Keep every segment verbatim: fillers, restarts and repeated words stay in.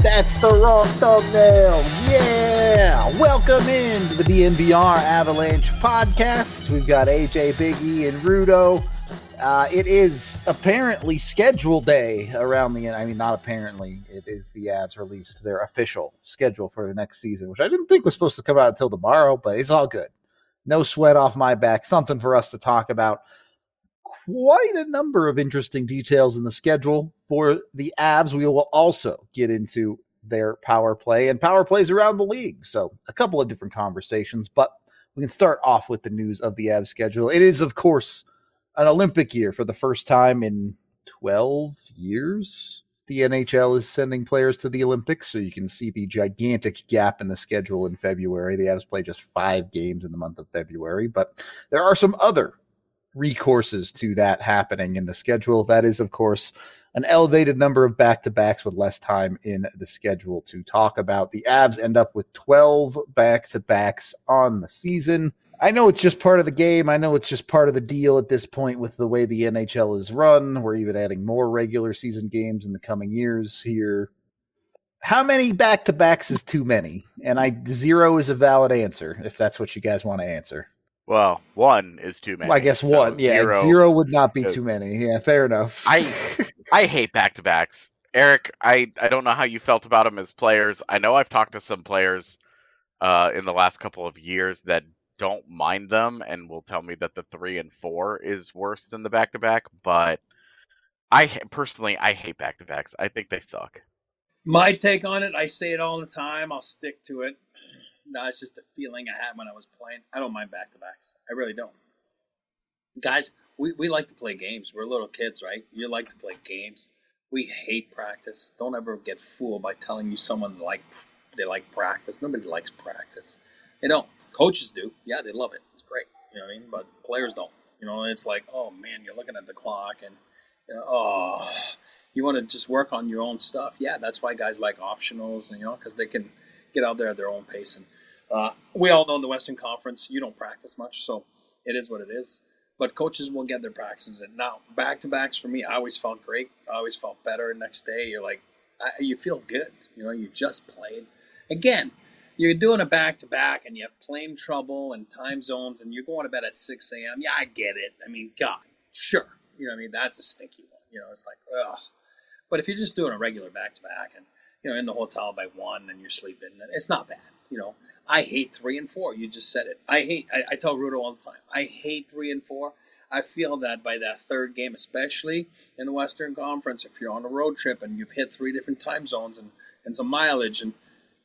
That's the wrong thumbnail. Yeah. Welcome in to the D N V R Avalanche podcast. We've got A J, Big E, and Rudo. Uh, it is apparently schedule day around the end. I mean, not apparently. It is the Avs released their official schedule for the next season, which I didn't think was supposed to come out until tomorrow, but it's all good. No sweat off my back. Something for us to talk about. Quite a number of interesting details in the schedule for the Avs. We will also get into their power play and power plays around the league. So a couple of different conversations, but we can start off with the news of the Avs schedule. It is, of course, an Olympic year for the first time in twelve years. The N H L is sending players to the Olympics, so you can see the gigantic gap in the schedule in February. The Avs play just five games in the month of February, but there are some other recourses to that happening in the schedule. That is, of course, an elevated number of back-to-backs with less time in the schedule to talk about. The Avs end up with twelve back-to-backs on the season. I know it's just part of the game. I know it's just part of the deal at this point with the way the N H L is run. We're even adding more regular season games in the coming years here. How many back-to-backs is too many? And I zero is a valid answer, if that's what you guys want to answer. Well, one is too many. Well, I guess so one. Yeah, zero, zero would not be too many. Yeah, fair enough. I I hate back-to-backs. Eric, I, I don't know how you felt about them as players. I know I've talked to some players uh, in the last couple of years that don't mind them and will tell me that the three and four is worse than the back-to-back. But I personally, I hate back-to-backs. I think they suck. My take on it, I say it all the time. I'll stick to it. No, it's just a feeling I had when I was playing. I don't mind back-to-backs. I really don't. Guys, we, we like to play games. We're little kids, right? You like to play games. We hate practice. Don't ever get fooled by telling you someone like they like practice. Nobody likes practice. They don't. Coaches do. Yeah, they love it. It's great. You know what I mean? But players don't. You know, it's like, oh, man, you're looking at the clock and, you know, oh, you want to just work on your own stuff. Yeah, that's why guys like optionals, you know, because they can get out there at their own pace. And uh, we all know in the Western Conference, you don't practice much, so it is what it is. But coaches will get their practices in. Now, back-to-backs for me, I always felt great. I always felt better. Next day, you're like, I, you feel good. You know, you just played. Again, you're doing a back-to-back, and you have plane trouble and time zones, and you're going to bed at six a.m. Yeah, I get it. I mean, God, sure. You know what I mean? That's a stinky one. You know, it's like, ugh. But if you're just doing a regular back-to-back and, you know, in the hotel by one and you're sleeping, it's not bad, you know. I hate three and four. You just said it. I hate, I, I tell Rudo all the time, I hate three and four. I feel that by that third game, especially in the Western Conference, if you're on a road trip and you've hit three different time zones and, and some mileage, and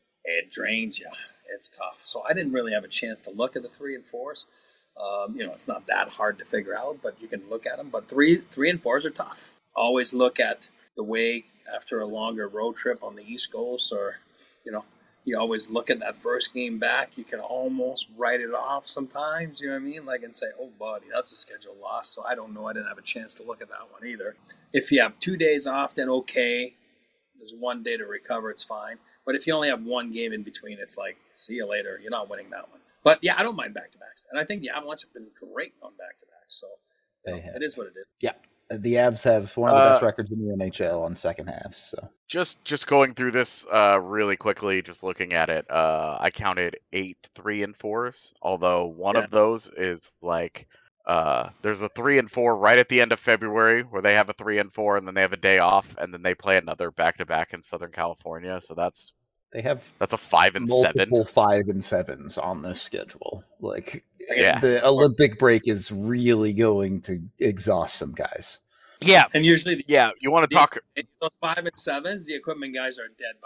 it drains you. It's tough. So I didn't really have a chance to look at the three and fours. Um, you know, it's not that hard to figure out, but you can look at them. But three, three and fours are tough. Always look at the way after a longer road trip on the East Coast, or, you know, you always look at that first game back. You can almost write it off sometimes, you know what I mean? Like, and say, oh, buddy, that's a schedule loss. So I don't know. I didn't have a chance to look at that one either. If you have two days off, then okay. There's one day to recover. It's fine. But if you only have one game in between, it's like, see you later. You're not winning that one. But, yeah, I don't mind back-to-backs. And I think the Avalanche have been great on back-to-backs. So you know, it is what it is. Yeah. The Avs have one of the uh, best records in the N H L on second halves. So just just going through this uh, really quickly, just looking at it, uh, I counted eight three and fours. Although one yeah. of those is like uh, there's a three and four right at the end of February where they have a three and four, and then they have a day off, and then they play another back to back in Southern California. So that's they have that's a five and multiple seven, five and sevens on this schedule. Like. Yeah. The Olympic break is really going to exhaust some guys. Yeah. And usually, the, yeah, you want to talk. Those five and sevens, the equipment guys are dead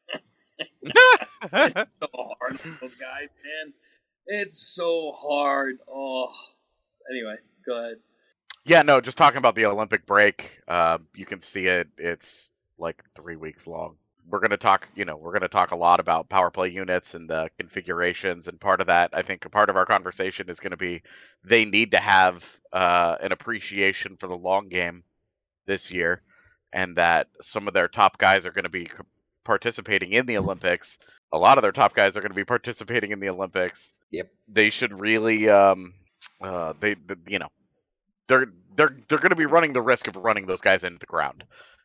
by then. It's so hard for those guys, man. It's so hard. Oh. Anyway, go ahead. Yeah, no, just talking about the Olympic break. Uh, you can see it. It's like three weeks long. We're going to talk, you know, we're going to talk a lot about power play units and the configurations. And part of that, I think a part of our conversation is going to be they need to have uh, an appreciation for the long game this year, and that some of their top guys are going to be participating in the Olympics. A lot of their top guys are going to be participating in the Olympics. Yep. They should really, um, uh, they, the, you know, they're, they're, they're going to be running the risk of running those guys into the ground.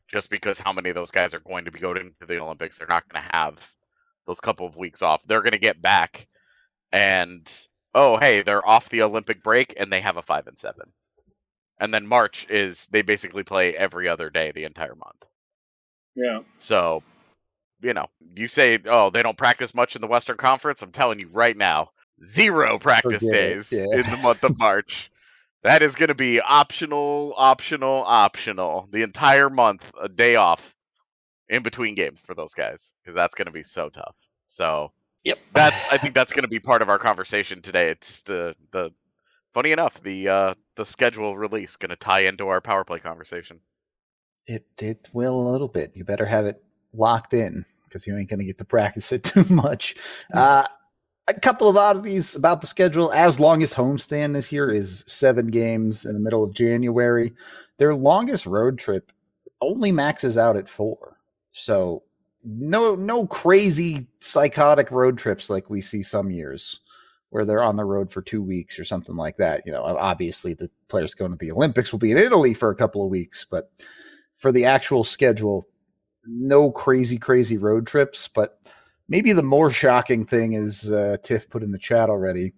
just because how many of those guys are going to be going to the Olympics. They're not going to have those couple of weeks off. They're going to get back, and oh, hey, they're off the Olympic break, and they have a five and seven. And then March is they basically play every other day the entire month. Yeah. So, you know, you say, oh, they don't practice much in the Western Conference. I'm telling you right now, zero practice Forget it, days yeah. in the month of March. That is going to be optional, optional, optional. The entire month, a day off in between games for those guys, because that's going to be so tough. So, Yep. that's I think that's going to be part of our conversation today. It's the the funny enough, the uh, the schedule release going to tie into our power play conversation. It it will a little bit. You better have it locked in because you ain't going to get to practice it too much. Uh, a couple of oddities about the schedule. As longest homestand this year is seven games in the middle of January. Their longest road trip only maxes out at four. So no no crazy psychotic road trips like we see some years where they're on the road for two weeks or something like that. You know, obviously the players going to the Olympics will be in Italy for a couple of weeks, but for the actual schedule, no crazy, crazy road trips. But maybe the more shocking thing is, uh, Tiff put in the chat already,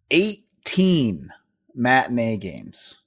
eighteen matinee games.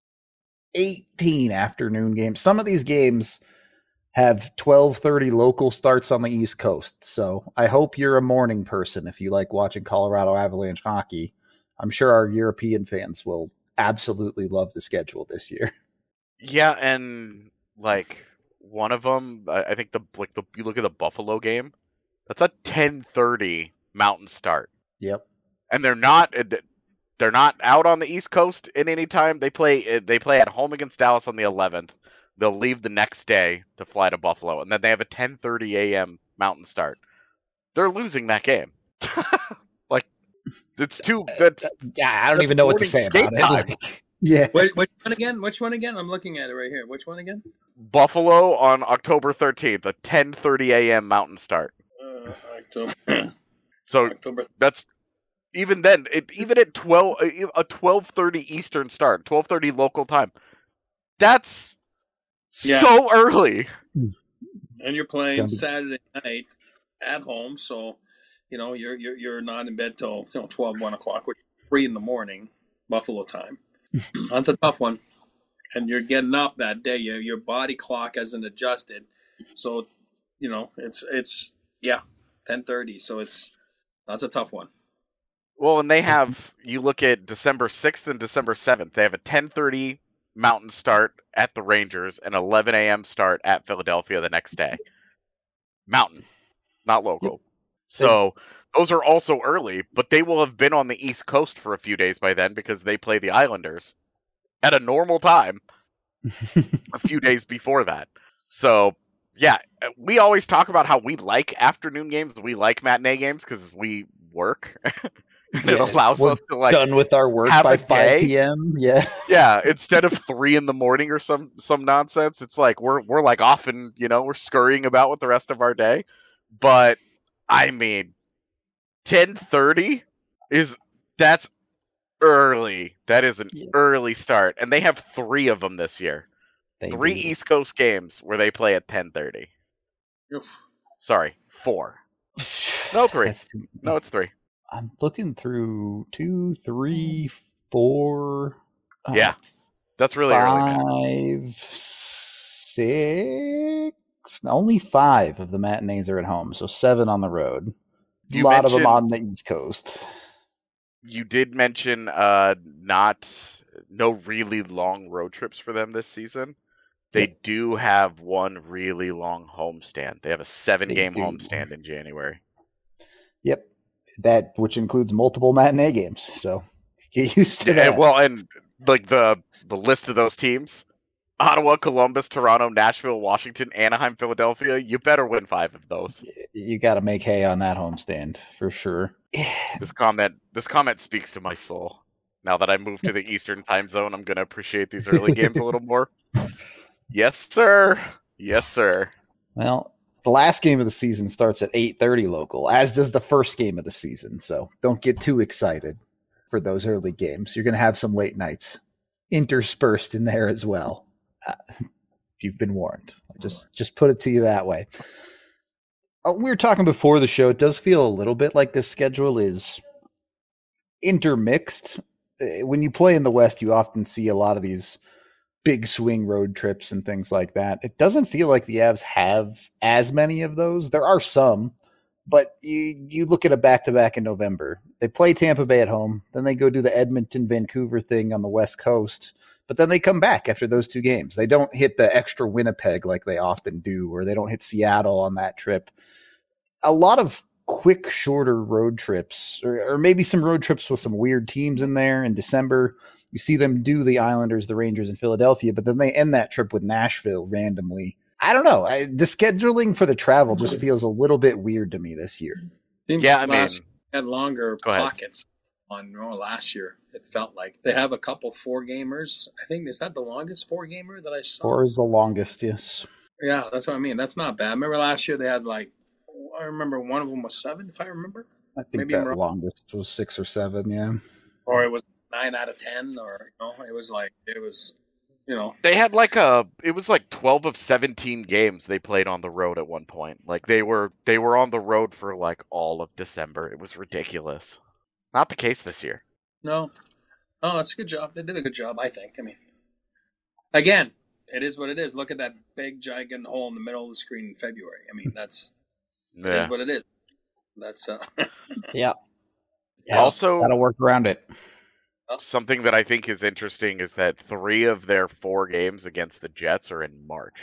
eighteen afternoon games. Some of these games have twelve thirty local starts on the East Coast. So I hope you're a morning person if you like watching Colorado Avalanche hockey. I'm sure our European fans will absolutely love the schedule this year. Yeah, and like one of them, I I think the like the you look at the Buffalo game, that's a ten thirty Mountain start, Yep. and they're not they're not out on the East Coast in any time. They play they play at home against Dallas on the eleventh. They'll leave the next day to fly to Buffalo, and then they have a ten thirty a.m. Mountain start. They're losing that game. Like it's too. That's I don't that's even know what to morning say skate about it. time. Like, yeah. Which, which one again? Which one again? I'm looking at it right here. Which one again? Buffalo on October thirteenth, a ten thirty a.m. Mountain start. Uh, October. So October. that's even then. It, even at twelve, a twelve thirty Eastern start, twelve thirty local time. That's Yeah. so early. And you're playing Gonna be- Saturday night at home, so you know you're you're you're not in bed till you know twelve, one o'clock, which is three in the morning, Buffalo time. That's a tough one. And you're getting up that day. Your your body clock hasn't adjusted, so you know it's it's yeah, ten thirty. So it's that's a tough one. Well, and they have, you look at December sixth and December seventh, they have a ten thirty Mountain start at the Rangers and eleven a.m. start at Philadelphia the next day. Mountain, not local. Yep. So those are also early, but they will have been on the East Coast for a few days by then because they play the Islanders at a normal time a few days before that. So, yeah, we always talk about how we like afternoon games, we like matinee games because we work. And it Yeah, allows we're us to like done with our work have by a five day. p.m. Yeah. yeah, instead of three in the morning or some some nonsense, it's like we're we're like often, you know, we're scurrying about with the rest of our day. But I mean, ten thirty is that's early. That is an Yeah. early start, and they have three of them this year. They Three do. East Coast games where they play at ten thirty. Oof. Sorry, four. No, three. That's too- No, it's three. I'm looking through two, three, four. uh, Yeah, that's really early, man. five, six. Only five of the matinees are at home, so seven on the road. A You lot of them mentioned- on the East Coast. You did mention uh not no really long road trips for them this season. They Yep. do have one really long homestand. They have a seven game They do. homestand in January. Yep, that which includes multiple matinee games. So get used to Yeah, that. well, and like the the list of those teams: Ottawa, Columbus, Toronto, Nashville, Washington, Anaheim, Philadelphia. You better win five of those. You got to make hay on that homestand for sure. This comment this comment speaks to my soul. Now that I moved to the Eastern time zone, I'm gonna appreciate these early games a little more. Yes, sir. Yes, sir. Well, the last game of the season starts at eight thirty local, as does the first game of the season. So don't get too excited for those early games. You're going to have some late nights interspersed in there as well. Uh, You've been warned. I'll just just put it to you that way. Uh, we were talking before the show. It does feel a little bit like this schedule is intermixed. Uh, When you play in the West, you often see a lot of these big swing road trips and things like that. It doesn't feel like the Avs have as many of those. There are some, but you you look at a back-to-back in November. They play Tampa Bay at home, then they go do the Edmonton Vancouver thing on the West Coast, but then they come back after those two games. They don't hit the extra Winnipeg like they often do, or they don't hit Seattle on that trip. A lot of quick, shorter road trips, or, or maybe some road trips with some weird teams in there in December. You see them do the Islanders, the Rangers, and Philadelphia, but then they end that trip with Nashville randomly. I don't know. I, the scheduling for the travel just feels a little bit weird to me this year. Yeah, I mean, last had longer go ahead. pockets on you know, last year. It felt like they have a couple four gamers. I think is that the longest four gamer that I saw. Four is the longest, yes. Yeah, that's what I mean. That's not bad. Remember last year they had like I remember one of them was seven, if I remember, I think Maybe I'm that wrong. longest was six or seven, yeah. or it was nine out of ten, or you know, it was like it was, you know, They had like a it was like twelve of seventeen games they played on the road at one point. Like they were they were on the road for like all of December. It was ridiculous. Not the case this year. no, oh, that's a good job. They did a good job, I think. I mean, again, it is what it is. Look at that big giant hole in the middle of the screen in February. I mean, that's it Yeah. is what it is. That's uh, Yeah. Also, That'll work around it. something that I think is interesting is that three of their four games against the Jets are in March.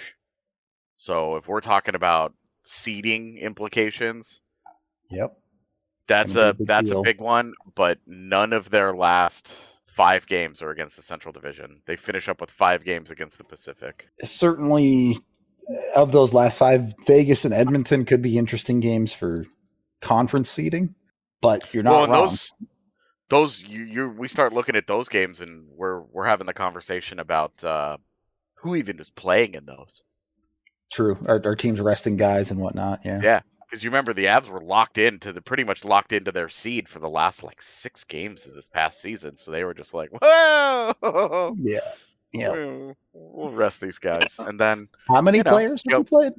So if we're talking about seeding implications, Yep. that's Gonna a be a big that's deal. a big one. But none of their last five games are against the Central Division. They finish up with five games against the Pacific. Certainly, uh, of those last five, Vegas and Edmonton could be interesting games for conference seeding, but you're not well, and wrong. those those you you we start looking at those games and we're we're having the conversation about uh, who even is playing in those. True. Our, our team's resting guys and whatnot. Yeah. Yeah, because you remember the Avs were locked into the pretty much locked into their seed for the last like six games of this past season, so they were just like, whoa, Yeah. Yeah. we'll, we'll rest these guys, and then How many You know, players have go- you played?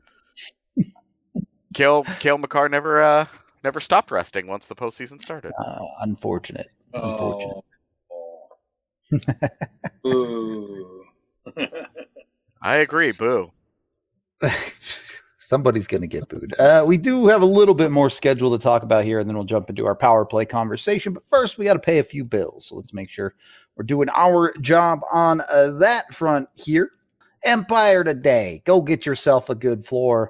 Kale Kale McCarr never uh never stopped resting once the postseason started. Uh, unfortunate. Unfortunate. oh, boo. I agree, boo. Somebody's going to get booed. Uh, we do have a little bit more schedule to talk about here, and then we'll jump into our power play conversation. But first, we got to pay a few bills. So let's make sure we're doing our job on uh, that front here. Empire Today. Go get yourself a good floor.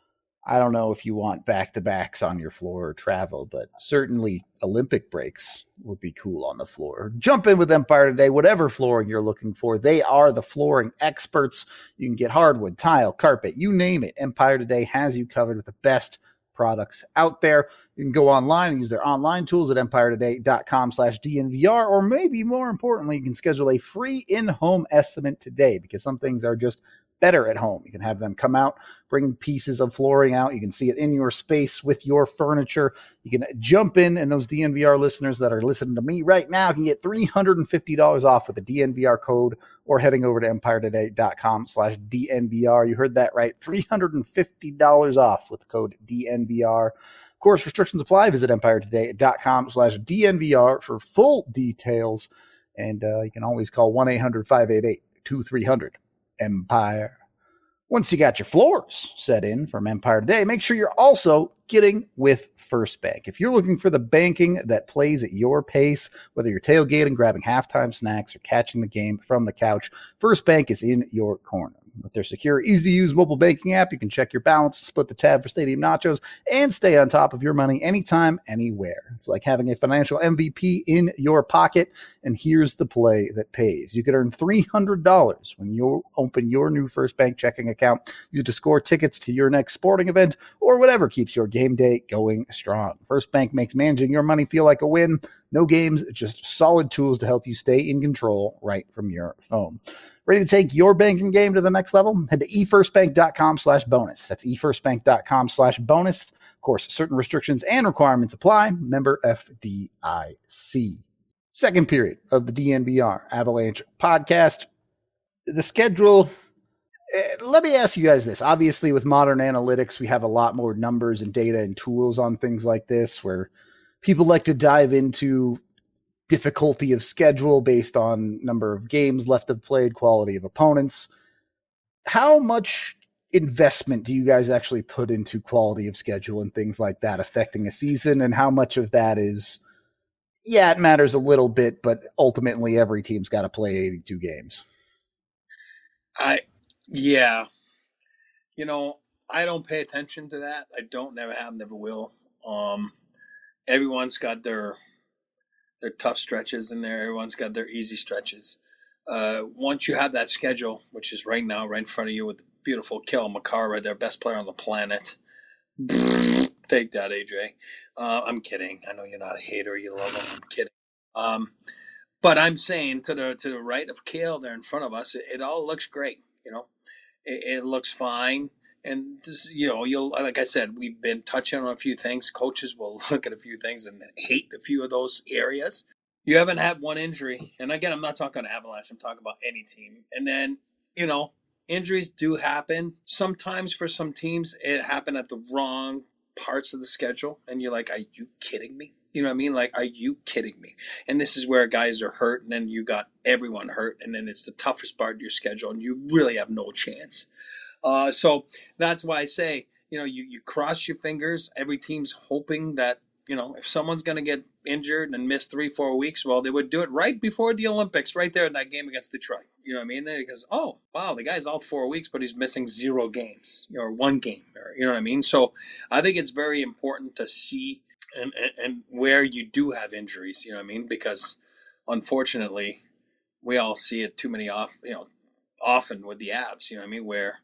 I don't know if you want back-to-backs on your floor or travel, but certainly Olympic breaks would be cool on the floor. Jump in with Empire Today, whatever flooring you're looking for. They are the flooring experts. You can get hardwood, tile, carpet, you name it. Empire Today has you covered with the best products out there. You can go online and use their online tools at empiretoday.com slash DNVR, or maybe more importantly, you can schedule a free in-home estimate today because some things are just better at home. You can have them come out, bring pieces of flooring out. You can see it in your space with your furniture. You can jump in, and those D N V R listeners that are listening to me right now can get three hundred fifty dollars off with the D N V R code or heading over to empiretoday.com slash DNVR. You heard that right. three hundred fifty dollars off with the code D N V R. Of course, restrictions apply. Visit empiretoday.com slash DNVR for full details. And uh, you can always call one eight hundred five eight eight two three zero zero. Empire. Once you got your floors set in from Empire Today, make sure you're also getting with First Bank. If you're looking for the banking that plays at your pace, whether you're tailgating, grabbing halftime snacks, or catching the game from the couch, First Bank is in your corner. With their secure, easy-to-use mobile banking app, you can check your balance, split the tab for stadium nachos, and stay on top of your money anytime, anywhere. It's like having a financial M V P in your pocket, and here's the play that pays. You could earn three hundred dollars when you open your new First Bank checking account. Use to score tickets to your next sporting event or whatever keeps your game day going strong. First Bank makes managing your money feel like a win. No games, just solid tools to help you stay in control right from your phone. Ready to take your banking game to the next level? Head to efirstbank.com slash bonus. That's efirstbank.com slash bonus. Of course, certain restrictions and requirements apply. Member F D I C. Second period of the D N V R Avalanche podcast. The schedule, Uh, let me ask you guys this. Obviously, with modern analytics, we have a lot more numbers and data and tools on things like this where people like to dive into difficulty of schedule based on number of games left of played, quality of opponents. How much investment do you guys actually put into quality of schedule and things like that affecting a season? And how much of that is, yeah, it matters a little bit, but ultimately every team's got to play eighty-two games? I, yeah, you know, I don't pay attention to that. I don't, never have, never will. Um, everyone's got their their tough stretches in there. Everyone's got their easy stretches. Uh, once you have that schedule, which is right now, right in front of you with the beautiful Cale Makar right there, best player on the planet. Take that, A J. Uh, I'm kidding. I know you're not a hater. You love him. I'm kidding. Um, but I'm saying to the to the right of Cale there in front of us, it, it all looks great. You know, it, it looks fine. And this, you know, you'll like I said, we've been touching on a few things. Coaches will look at a few things and hate a few of those areas. You haven't had one injury, and again, I'm not talking Avalanche. I'm talking about any team. And then, you know, injuries do happen. Sometimes for some teams, it happened at the wrong parts of the schedule, and you're like, "Are you kidding me?" You know what I mean? Like, are you kidding me? And this is where guys are hurt, and then you got everyone hurt, and then it's the toughest part of your schedule, and you really have no chance. Uh, so that's why I say, you know, you, you cross your fingers. Every team's hoping that, you know, if someone's going to get injured and miss three, four weeks, well, they would do it right before the Olympics, right there in that game against Detroit. You know what I mean? Because, oh, wow, the guy's out four weeks, but he's missing zero games, or one game, or, you know what I mean? So I think it's very important to see and, and, and where you do have injuries, you know what I mean? Because unfortunately, we all see it too many off, you know, often with the Avs, you know what I mean? Where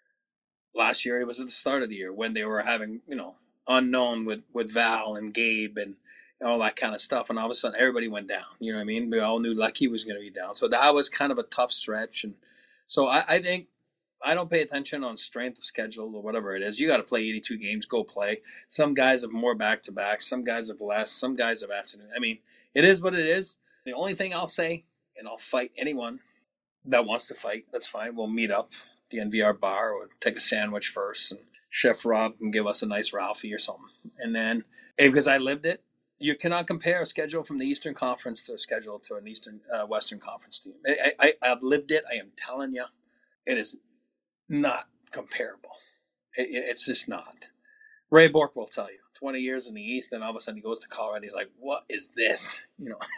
last year it was at the start of the year when they were having, you know, unknown with, with Val and Gabe and all that kind of stuff. And all of a sudden everybody went down. You know what I mean? We all knew Lucky was going to be down. So that was kind of a tough stretch. And so I, I think I don't pay attention on strength of schedule or whatever it is. You got to play eighty-two games, go play. Some guys have more back-to-backs. Some guys have less. Some guys have afternoon. I mean, it is what it is. The only thing I'll say, and I'll fight anyone that wants to fight, that's fine. We'll meet up at the N V R bar or take a sandwich first, and Chef Rob can give us a nice Ralphie or something. And then, because I lived it, you cannot compare a schedule from the Eastern Conference to a schedule to an Eastern uh, Western Conference team. I, I, I've lived it. I am telling you, it is not comparable. It, it's just not. Ray Bork will tell you. twenty years in the East, and all of a sudden he goes to Colorado. He's like, "What is this? You know,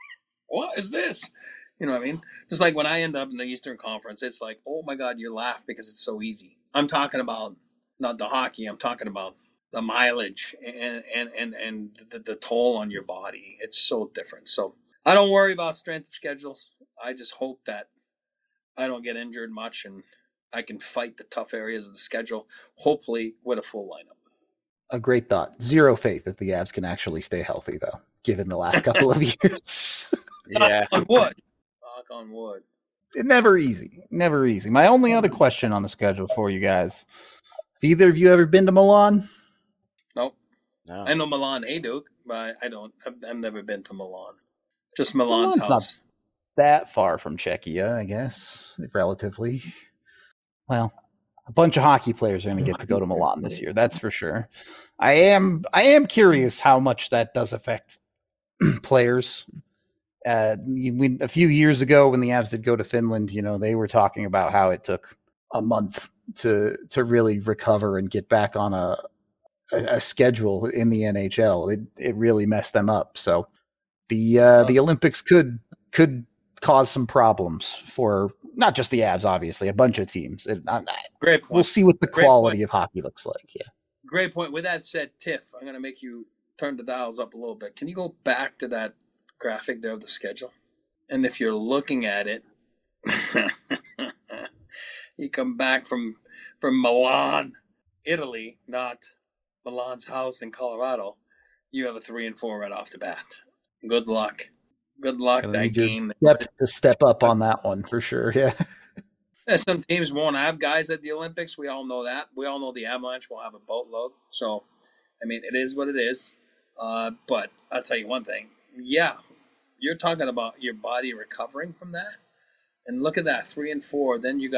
what is this?" You know what I mean? Just like when I end up in the Eastern Conference, it's like, "Oh my God," you laugh because it's so easy. I'm talking about not the hockey. I'm talking about the mileage and and and, and the, the toll on your body. It's so different. So I don't worry about strength of schedules. I just hope that I don't get injured much and I can fight the tough areas of the schedule, hopefully with a full lineup. A great thought. Zero faith that the Avs can actually stay healthy, though, given the last couple of years. Yeah. Knock on wood. Knock on wood. Never easy. Never easy. My only other question on the schedule for you guys. Have either of you ever been to Milan? Nope. No. I know Milan Hajduk, but I don't. I've, I've never been to Milan. Just Milan's Milan's house. Not that far from Czechia, I guess, relatively. Well, a bunch of hockey players are going to get to go to Milan this year. That's for sure. I am. I am curious how much that does affect players. Uh, we, a few years ago, when the Avs did go to Finland, you know, they were talking about how it took a month to to really recover and get back on a a, a schedule in the N H L. It it really messed them up. So the uh, the Olympics could could cause some problems for not just the Avs, obviously, a bunch of teams. It, I, Great point. We'll see what the Great quality point. of hockey looks like. Yeah. Great point. With that said, Tiff, I'm going to make you turn the dials up a little bit. Can you go back to that graphic there of the schedule? And if you're looking at it, you come back from from Milan, Italy, not Milan's house in Colorado. You have a three and four right off the bat. Good luck. Good luck Gonna that need your game. depth to step up on that one for sure. Yeah. Yeah, some teams won't have guys at the Olympics. We all know that. We all know the Avalanche will have a boatload. So, I mean, it is what it is. Uh, but I'll tell you one thing. Yeah, you're talking about your body recovering from that. And look at that, three and four. Then you got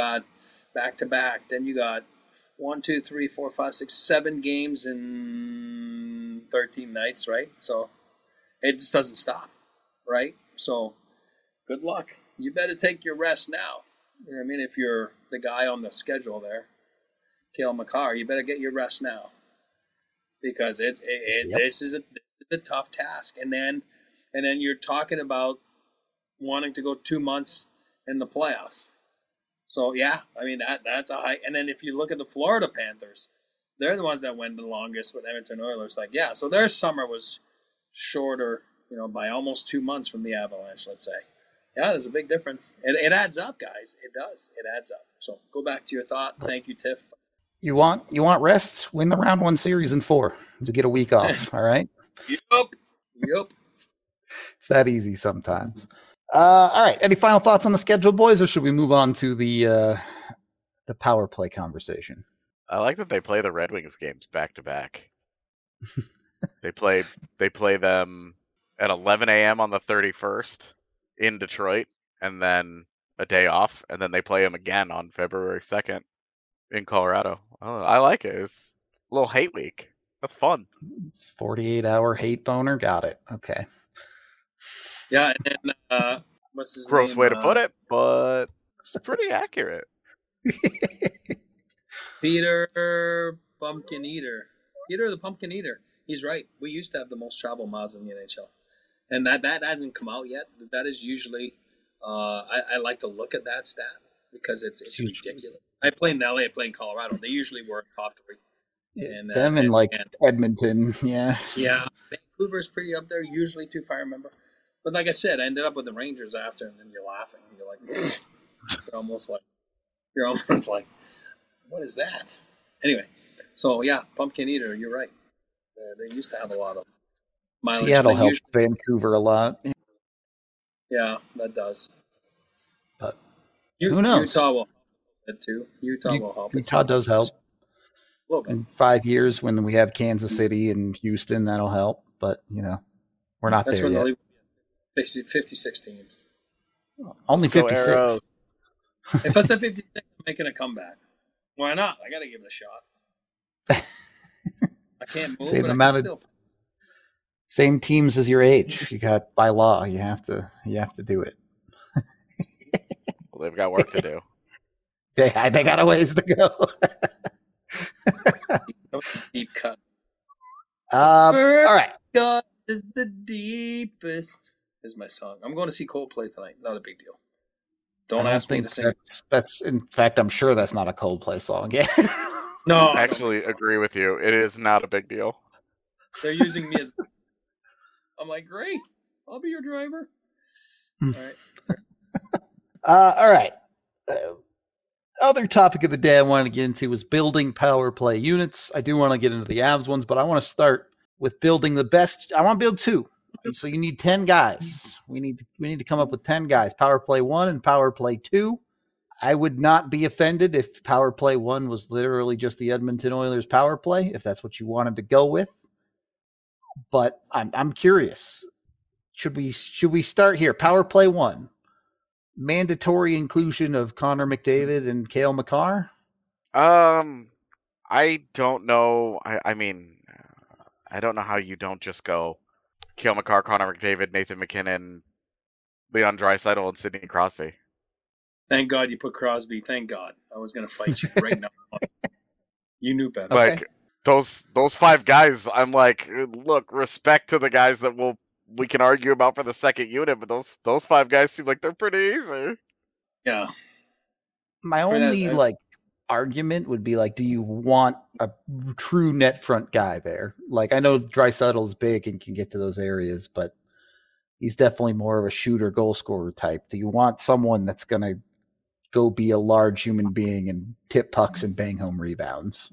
back to back. Then you got one, two, three, four, five, six, seven games in thirteen nights, right? So it just doesn't stop, right? So good luck. You better take your rest now. You know what I mean? If you're the guy on the schedule there, Cale Makar, you better get your rest now because it's it, it, yep. this is a, this is a tough task. And then and then you're talking about wanting to go two months in the playoffs. So yeah, I mean that that's a high. And then if you look at the Florida Panthers, they're the ones that went the longest with Edmonton Oilers. Like yeah, so their summer was shorter, you know, by almost two months from the Avalanche. Let's say, yeah, there's a big difference. It, it adds up, guys. It does. It adds up. So go back to your thought. Thank you, Tiff. You want you want rest? Win the round one series in four to get a week off. All right. Yep. Yep. It's that easy sometimes. Uh, all right. Any final thoughts on the schedule, boys, or should we move on to the uh, the power play conversation? I like that they play the Red Wings games back to back. They play they play them at eleven a.m. on the thirty-first in Detroit, and then a day off, and then they play them again on February second in Colorado. Oh, I like it. It's a little hate week. That's fun. forty-eight hour hate boner. Got it. Okay. Yeah, and then, uh, what's his Gross name? way to uh, put it, but it's pretty accurate. Peter Pumpkin Eater. Peter the Pumpkin Eater. He's right. We used to have the most travel miles in the N H L. And that, that hasn't come out yet. That is usually, uh, I, I like to look at that stat because it's it's ridiculous. I play in L A, I play in Colorado. They usually were top three. And, uh, Them and, and like and, Edmonton, yeah. Yeah. Vancouver's pretty up there usually too, if I remember. But like I said, I ended up with the Rangers after, and then you're laughing. You're like, you're almost like, you're almost like, what is that? Anyway, so yeah, Pumpkin Eater, you're right. Uh, they used to have a lot of mileage. Seattle helped usually, Vancouver a lot. Yeah, that does. But you, who knows? Utah will help it too. Utah U- will help. Utah does help. A little bit. In five years, when we have Kansas City and Houston, that'll help. But you know, we're not That's there when yet. The fifty-six teams. Only fifty-six. Arrows. If I said fifty-six, I'm making a comeback. Why not? I got to give it a shot. I can't move, Same but I amount can of- still. Same teams as your age. You got by law. You have to. You have to do it. Well, they've got work to do. They they got a ways to go. That was a deep cut. um, all right. God is the deepest. Is my song. I'm going to see Coldplay tonight. Not a big deal. Don't, I don't ask me think to sing. that's, that's. In fact, I'm sure that's not a Coldplay song. Yeah. No, I don't Actually, think so. agree with you. It is not a big deal. They're using me as. I'm like, great. I'll be your driver. All right. Uh, all right. Uh, other topic of the day I wanted to get into was building power play units. I do want to get into the Avs ones, but I want to start with building the best. I want to build two. So you need ten guys. We need we need to come up with ten guys. Power play one and power play two. I would not be offended if power play one was literally just the Edmonton Oilers power play, if that's what you wanted to go with. But I'm I'm curious. Should we should we start here? Power play one. Mandatory inclusion of Connor McDavid and Cale Makar? Um, I don't know. I, I mean, I don't know how you don't just go Cale Makar, Connor McDavid, Nathan McKinnon, Leon Draisaitl, and Sidney Crosby. Thank God you put Crosby. Thank God. I was going to fight you right now. You knew better. Okay. Like those those five guys, I'm like, look, respect to the guys that will we can argue about for the second unit, but those those five guys seem like they're pretty easy. Yeah. My I mean, only I- I- like argument would be like, do you want a true net front guy there? Like, I know Draisaitl's big and can get to those areas, but he's definitely more of a shooter, goal scorer type. Do you want someone that's going to go be a large human being and tip pucks and bang home rebounds?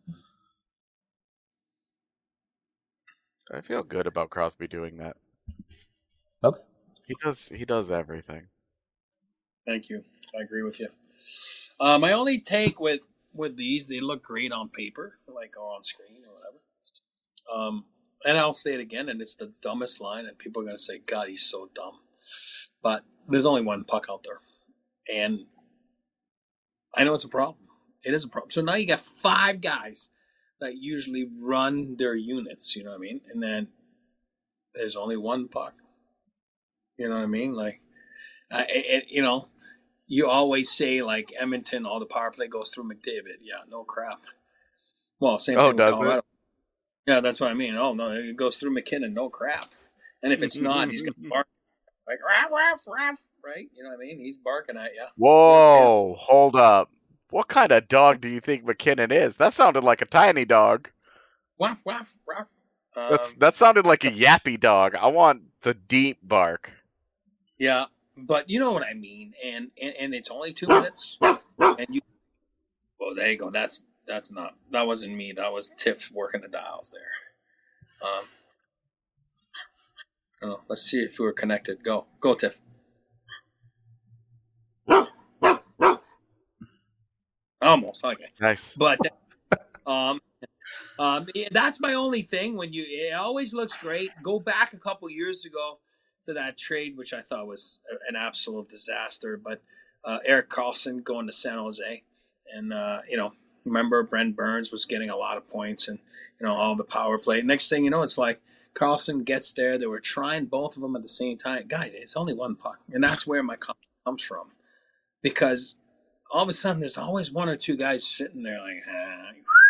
I feel good about Crosby doing that. Okay. He does he does everything. Thank you. I agree with you. Uh, my only take with, with these, they look great on paper, like on screen or whatever. Um, and I'll say it again, and it's the dumbest line, and people are going to say, God, he's so dumb. But there's only one puck out there. And I know it's a problem. It is a problem. So now you got five guys that usually run their units, you know what I mean? And then there's only one puck. You know what I mean? Like, uh, it, it, you know, you always say, like, Edmonton, all the power play goes through McDavid. Yeah, no crap. Well, same Oh, thing with does Colorado. it? Yeah, that's what I mean. Oh, no, it goes through McKinnon, no crap. And if it's not, he's going to bark like, raff, raff, raff, right? You know what I mean? He's barking at you. Whoa, hold up. What kind of dog do you think McKinnon is? That sounded like a tiny dog. Waff, waff, waff. That's Um, that sounded like a yappy dog. I want the deep bark. yeah, but you know what I mean. And, and, and it's only two minutes. And you, well, there you go. That's that's not, that wasn't me. That was Tiff working the dials there. Um, oh, let's see if we're connected. Go, go, Tiff. Almost, okay. Nice. But um, um, yeah, that's my only thing. When you, it always looks great. Go back a couple years ago to that trade, which I thought was an absolute disaster. But uh, Erik Karlsson going to San Jose, and uh, you know, remember Brent Burns was getting a lot of points, and you know all the power play. Next thing you know, it's like Karlsson gets there. They were trying both of them at the same time. Guys, it's only one puck, and that's where my comment comes from, because all of a sudden there's always one or two guys sitting there like, ah,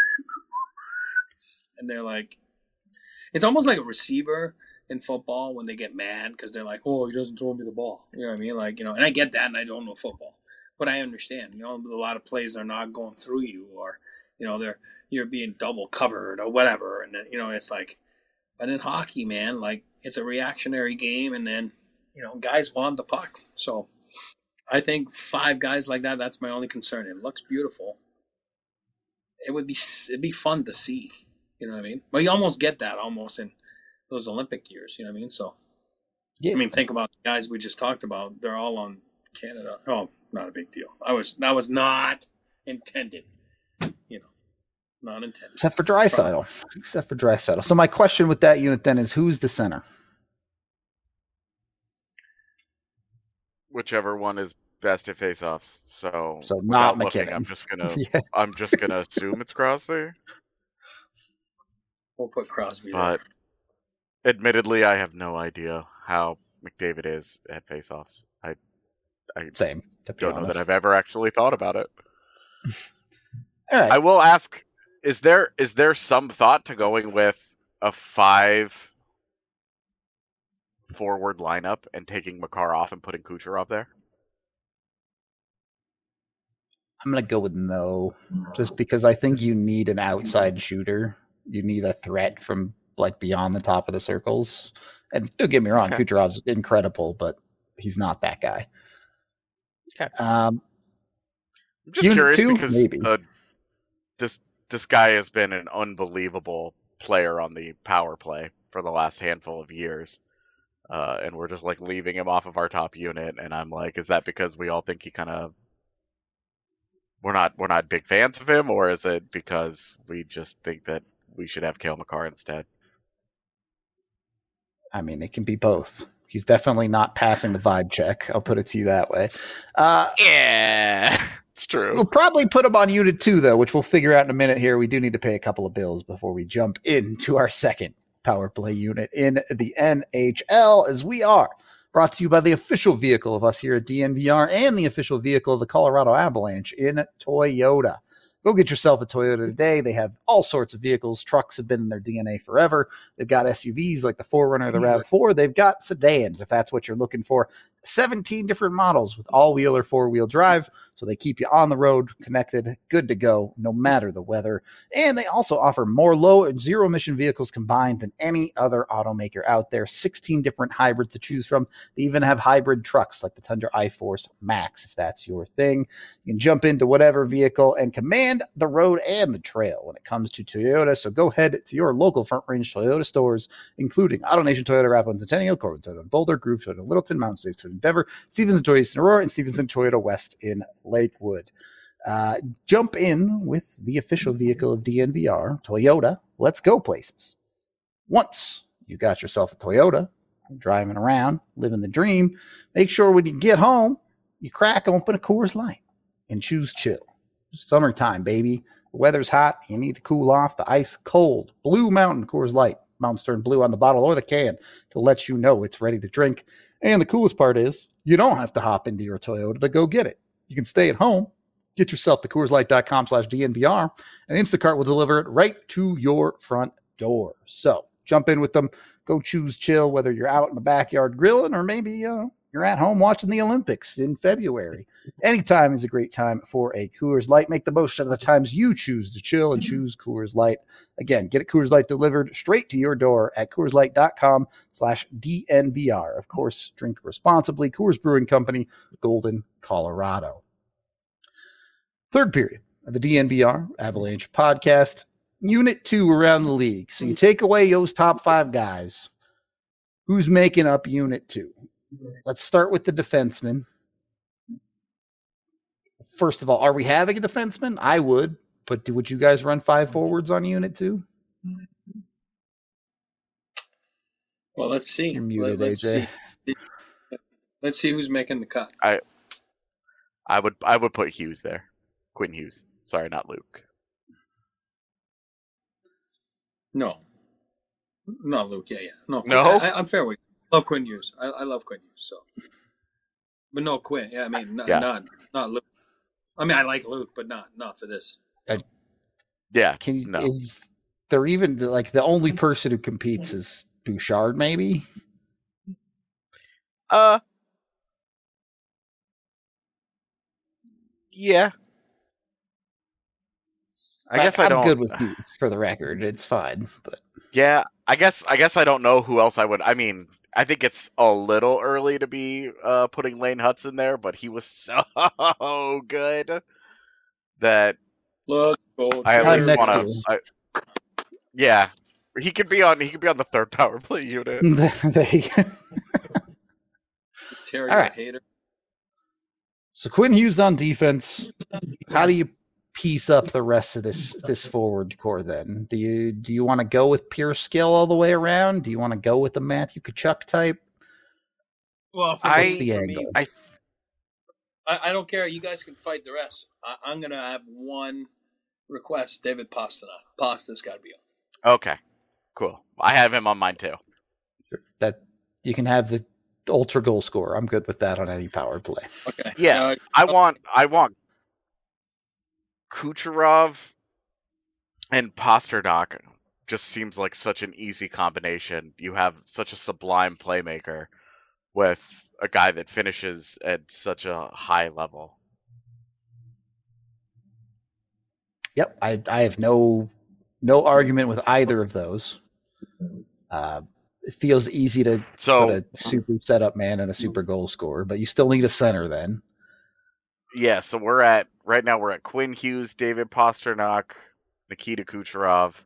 and they're like, it's almost like a receiver in football when they get mad because they're like, oh, he doesn't throw me the ball. You know what I mean? Like, you know, and I get that, and I don't know football, but I understand. You know, a lot of plays are not going through you, or you know, they're you're being double covered or whatever, and then, you know, it's like, but in hockey, man, like it's a reactionary game, and then you know, guys want the puck, so. I think five guys like that, that's my only concern. It looks beautiful. It would be it'd be fun to see. You know what I mean? But you almost get that almost in those Olympic years. You know what I mean? So, yeah. I mean, think about the guys we just talked about. They're all on Canada. Oh, not a big deal. I was That was not intended. You know, not intended. Except for Draisaitl. Except for Draisaitl. So my question with that unit then is, who's the center? Whichever one is best at face-offs. So, so not looking, McKinnon. I'm just gonna, yeah. I'm just gonna assume it's Crosby. We'll put Crosby. But there. admittedly, I have no idea how McDavid is at face-offs. I, I same. don't know that I've ever actually thought about it. All right. I will ask: Is there is there some thought to going with a five? Forward lineup and taking Makar off and putting Kucherov there? I'm going to go with no, just because I think you need an outside shooter. You need a threat from like beyond the top of the circles. And don't get me wrong, okay. Kucherov's incredible, but he's not that guy. Okay. Um, I'm just curious two, because maybe. Uh, this this guy has been an unbelievable player on the power play for the last handful of years. Uh, and we're just like leaving him off of our top unit, and I'm like, is that because we all think he kind of we're not we're not big fans of him, or is it because we just think that we should have Cale Makar instead? I mean, it can be both. He's definitely not passing the vibe check. I'll put it to you that way. Uh, yeah, it's true. We'll probably put him on unit two, though, which we'll figure out in a minute here. We do need to pay a couple of bills before we jump into our second power play unit in the N H L, as we are brought to you by the official vehicle of us here at D N V R and the official vehicle of the Colorado Avalanche in Toyota. Go get yourself a Toyota today. They have all sorts of vehicles. Trucks have been in their D N A forever. They've got S U Vs like the four runner, the RAV four. They've got sedans, if that's what you're looking for. seventeen different models with all-wheel or four-wheel drive, so they keep you on the road, connected, good to go, no matter the weather. And they also offer more low and zero-emission vehicles combined than any other automaker out there. sixteen different hybrids to choose from. They even have hybrid trucks like the Tundra iForce Max, if that's your thing. You can jump into whatever vehicle and command the road and the trail when it comes to Toyota. So go head to your local Front Range Toyota stores, including AutoNation Toyota, Rathbone Centennial, Corbin Toyota Boulder, Groove Toyota Littleton, Mountain States Toyota Endeavor, Stevenson Toyota Eastern Aurora, and Stevenson Toyota West in Lakewood. Uh, jump in with the official vehicle of D N V R, Toyota. Let's go places. Once you got yourself a Toyota, driving around, living the dream, make sure when you get home, you crack open a Coors Light and choose chill. Summertime, baby. The weather's hot. You need to cool off. The ice cold. Blue Mountain Coors Light. Mountains turn blue on the bottle or the can to let you know it's ready to drink. And the coolest part is you don't have to hop into your Toyota to go get it. You can stay at home, get yourself to CoorsLight.com slash DNVR, and Instacart will deliver it right to your front door. So jump in with them. Go choose chill, whether you're out in the backyard grilling or maybe uh, you're at home watching the Olympics in February. Anytime is a great time for a Coors Light. Make the most out of the times you choose to chill and choose Coors Light. Again, get a Coors Light delivered straight to your door at CoorsLight.com slash DNVR. Of course, drink responsibly. Coors Brewing Company, Golden, Colorado. Third period of the D N V R Avalanche podcast. Unit two around the league. So you take away those top five guys. Who's making up unit two? Let's start with the defenseman. First of all, are we having a defenseman? I would, but would you guys run five forwards on unit two? Well, let's see. You're muted, Let, let's A J. see. Let's see who's making the cut. I I would I would put Hughes there. Quinn Hughes. Sorry, not Luke. No. Not Luke. Yeah, yeah. No. No? I, I, I'm fair with you. Love Quinn Hughes. I, I love Quinn Hughes. So, but no Quinn. Yeah, I mean, not Yeah. not, not Luke. I mean, I like Luke, but not not for this. Yeah. Can you, no. is there even like the only person who competes is Bouchard? Maybe. Uh. Yeah. I guess I I'm don't. good with Hughes for the record. It's fine, but Yeah, I guess I guess I don't know who else I would. I mean, I think it's a little early to be uh, putting Lane Hudson there, but he was so good that Look, gold. I at I'm least next want to to. Yeah, he could be on. He could be on the third power play unit. there you go. Terry All right. Hater. So Quinn Hughes on defense. How do you piece up the rest of this this forward core then? Do you do you want to go with pure skill all the way around? Do you want to go with the Matthew Tkachuk type? Well, for, I- me, the for angle? me, I I, I don't care. You guys can fight the rest. I, I'm gonna have one request: David Pastrnak. Pasta's got to be on. okay, cool. I have him on mine too. That you can have the ultra goal scorer. I'm good with that on any power play. Okay. Yeah, Uh, I want I want Kucherov and Pasternak. Just seems like such an easy combination. You have such a sublime playmaker with a guy that finishes at such a high level. Yep, I I have no no argument with either of those. Uh, it feels easy to So put a super setup man and a super goal scorer, but you still need a center then. yeah, so we're at right now we're at Quinn Hughes, David Pasternak, Nikita Kucherov.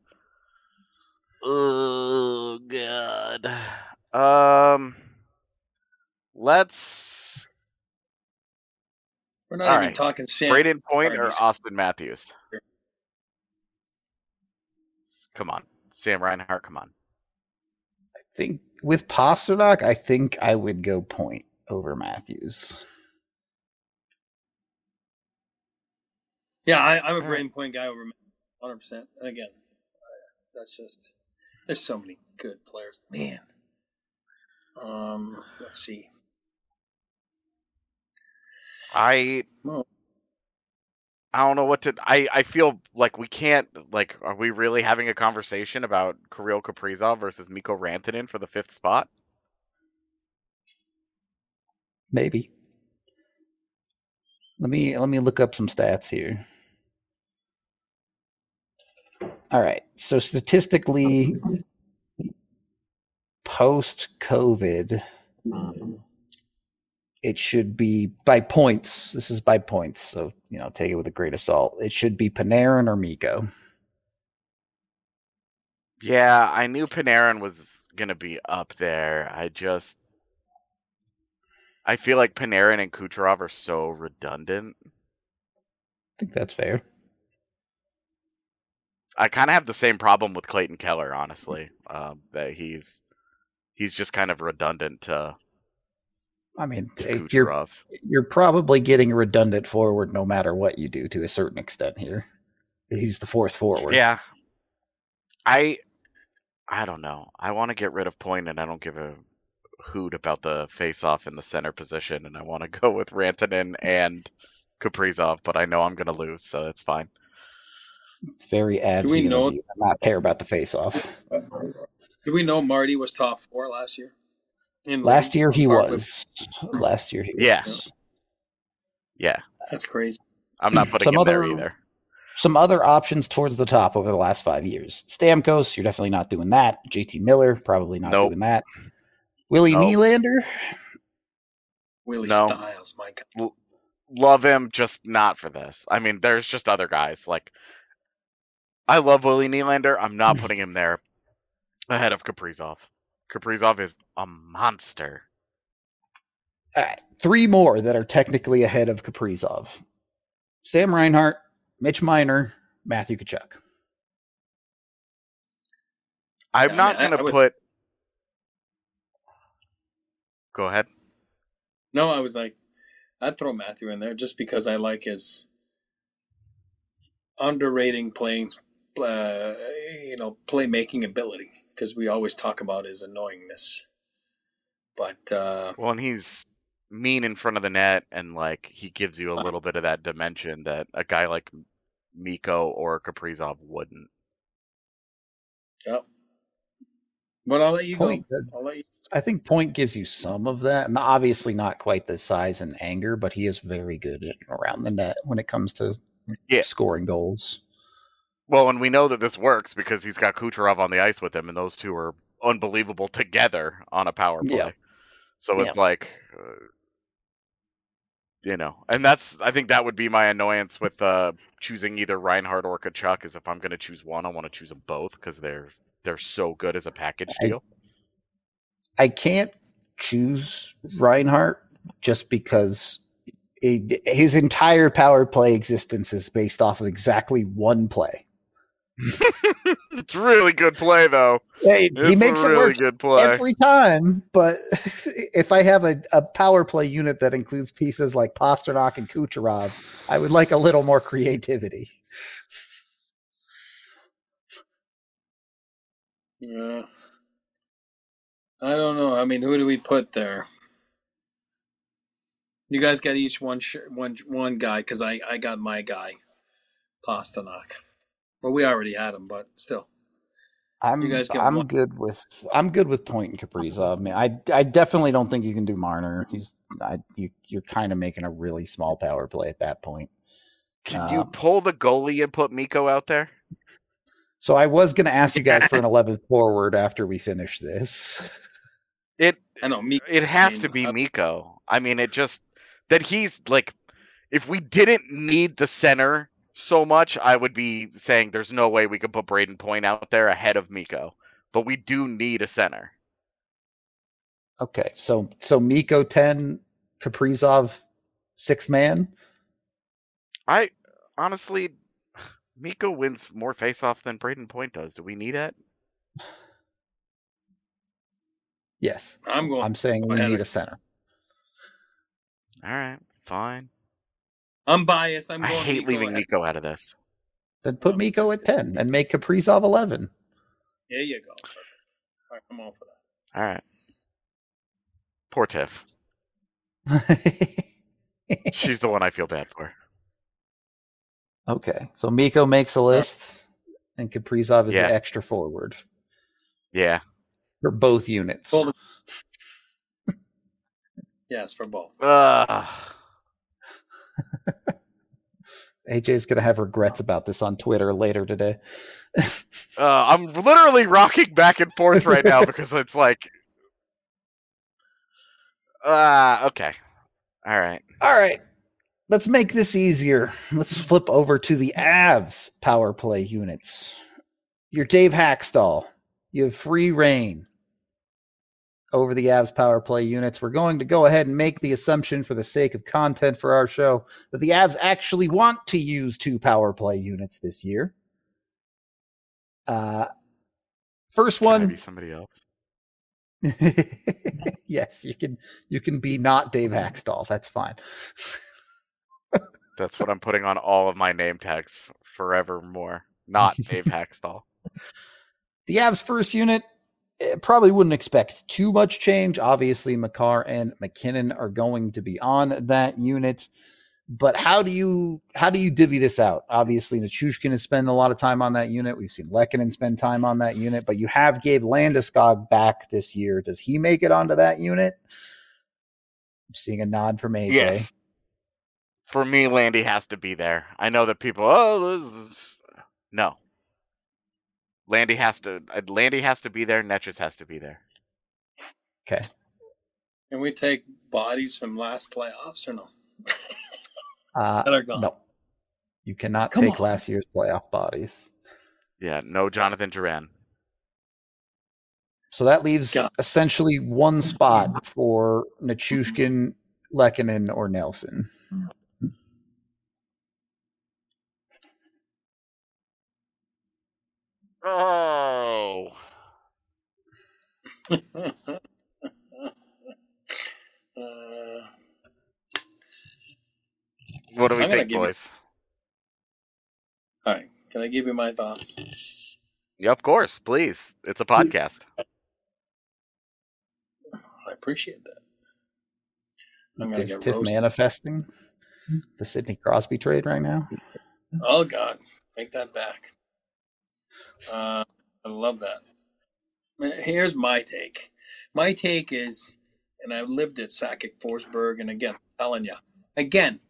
Oh god. Um let's we're not all even right. talking Sam. Braden Point or Reinhart. Austin Matthews? Come on. Sam Reinhart, come on. I think with Pasternak, I think I would go Point over Matthews. Yeah, I, I'm a All Braden Point guy over one hundred percent. And again, that's just there's so many good players. Man. Um, let's see. I Well, I don't know what to I I feel like we can't like are we really having a conversation about Kirill Kaprizov versus Mikko Rantanen for the fifth spot? Maybe. Let me let me look up some stats here. All right. So statistically, post-COVID, it should be by points. This is by points, so you know, take it with a grain of salt. It should be Panarin or Mikko. Yeah, I knew Panarin was gonna be up there. I just I feel like Panarin and Kucherov are so redundant. I think that's fair. I kind of have the same problem with Clayton Keller, honestly. Um, that he's he's just kind of redundant to I mean, to eh, you're Kucherov. you're probably getting a redundant forward no matter what you do to a certain extent here. He's the fourth forward. Yeah. I I don't know. I want to get rid of Point, and I don't give a hoot about the face-off in the center position, and I want to go with Rantanen and Kaprizov, but I know I'm going to lose, so that's fine. It's very Do we absy know- of you to not care about the face-off. Do we know Marty was top four last year? In Last year he Barclay? was. Last year he Yeah. was. Yeah. That's crazy. I'm not putting Some him there other- either. Some other options towards the top over the last five years. Stamkos, you're definitely not doing that. J T Miller, probably not Nope. doing that. Willie Nope. Nylander, Willie No. Styles, my God. Love him, just not for this. I mean, there's just other guys. Like, I love Willie Nylander. I'm not putting him there ahead of Kaprizov. Kaprizov is a monster. All right, three more that are technically ahead of Kaprizov. Sam Reinhart, Mitch Miner, Matthew Tkachuk. I'm Yeah, I not mean, I- going I to would- put. Go ahead. No, I was like, I'd throw Matthew in there just because I like his underrating playing, uh, you know, playmaking ability. Because we always talk about his annoyingness. But uh, Well, and he's mean in front of the net, and like he gives you a little bit of that dimension that a guy like Mikko or Kaprizov wouldn't. yep. But I'll let you Point, go. I'll let you. I think Point gives you some of that, and obviously not quite the size and anger, but he is very good at around the net when it comes to Yeah. scoring goals. Well, and we know that this works because he's got Kucherov on the ice with him, and those two are unbelievable together on a power play. Yeah. So it's Yeah. like, uh, you know, and that's I think that would be my annoyance with uh, choosing either Reinhardt or Tkachuk. Is if I'm going to choose one, I want to choose them both because they're they're so good as a package I- deal. I can't choose Reinhardt just because it, his entire power play existence is based off of exactly one play. It's really good play though. Hey, It's he makes a really it work good play. every time, but if I have a, a power play unit that includes pieces like Pasternak and Kucherov, I would like a little more creativity. Yeah. I don't know. I mean, who do we put there? You guys got each one sh- one one guy because I, I got my guy, Pasternak. Well, we already had him, but still. I'm You guys got I'm one. good with I'm good with Point and Kaprizov. I mean, I I definitely don't think you can do Marner. He's I, you you're kind of making a really small power play at that point. Can you Um, pull the goalie and put Mikko out there? So I was going to ask you guys for an eleventh forward after we finish this. It I know me. it has I mean, to be uh, Mikko. I mean, it just that he's like, if we didn't need the center so much, I would be saying there's no way we could put Braden Point out there ahead of Mikko. But we do need a center. Okay, so so Miko ten, Kaprizov sixth man. I honestly, Mikko wins more faceoffs than Braden Point does. Do we need it? Yes, I'm going. I'm saying we ahead need of- a center. All right, fine. I'm biased. I'm I going. hate Mikko leaving ahead. Mikko out of this. Then put Miko at ten and make Kaprizov eleven. There you go. Perfect. All right, I'm all for that. All right. Poor Tiff. She's the one I feel bad for. Okay, so Miko makes a list, and Kaprizov is Yeah. the extra forward Yeah. for both units. Hold it. Yes, for both. Ugh. A J's gonna have regrets about this on Twitter later today. Uh, I'm literally rocking back and forth right now because it's like, ah, uh, okay, all right. All right, let's make this easier. Let's flip over to the Avs power play units. You're Dave Hackstall. You have free reign over the Avs power play units. We're going to go ahead and make the assumption, for the sake of content for our show, that the Avs actually want to use two power play units this year. Uh, first Can I one, be somebody else? Yes, you can you can be not Dave Hackstall. That's fine. That's what I'm putting on all of my name tags f- forevermore. Not Dave Hackstall. The Avs first unit, eh, probably wouldn't expect too much change. Obviously, Makar and McKinnon are going to be on that unit. But how do you how do you divvy this out? Obviously, Nichushkin has spent a lot of time on that unit. We've seen Lehkonen spend time on that unit, but you have Gabe Landeskog back this year. Does he make it onto that unit? I'm seeing a nod from A J. Yes. For me, Landy has to be there. I know that people, oh, this is... no. Landy has to. Landy has to be there. Netchus has to be there. Okay. Can we take bodies from last playoffs or no? Uh, That are gone. no, you cannot Come take on. last year's playoff bodies. Yeah, no Jonathan Duran. So that leaves God. essentially one spot for Nichushkin, Lehkonen, or Nelson. Oh. uh, What do we I'm gonna think, give you- boys? all right. Can I give you my thoughts? Yeah, of course. Please. It's a podcast. I appreciate that. I'm gonna Is get Tiff roasted. manifesting the Sidney Crosby trade right now? Oh God, take that back. Uh, I love that. Here's my take. My take is, and I lived at Sakic Forsberg, and again, I'm telling you, again,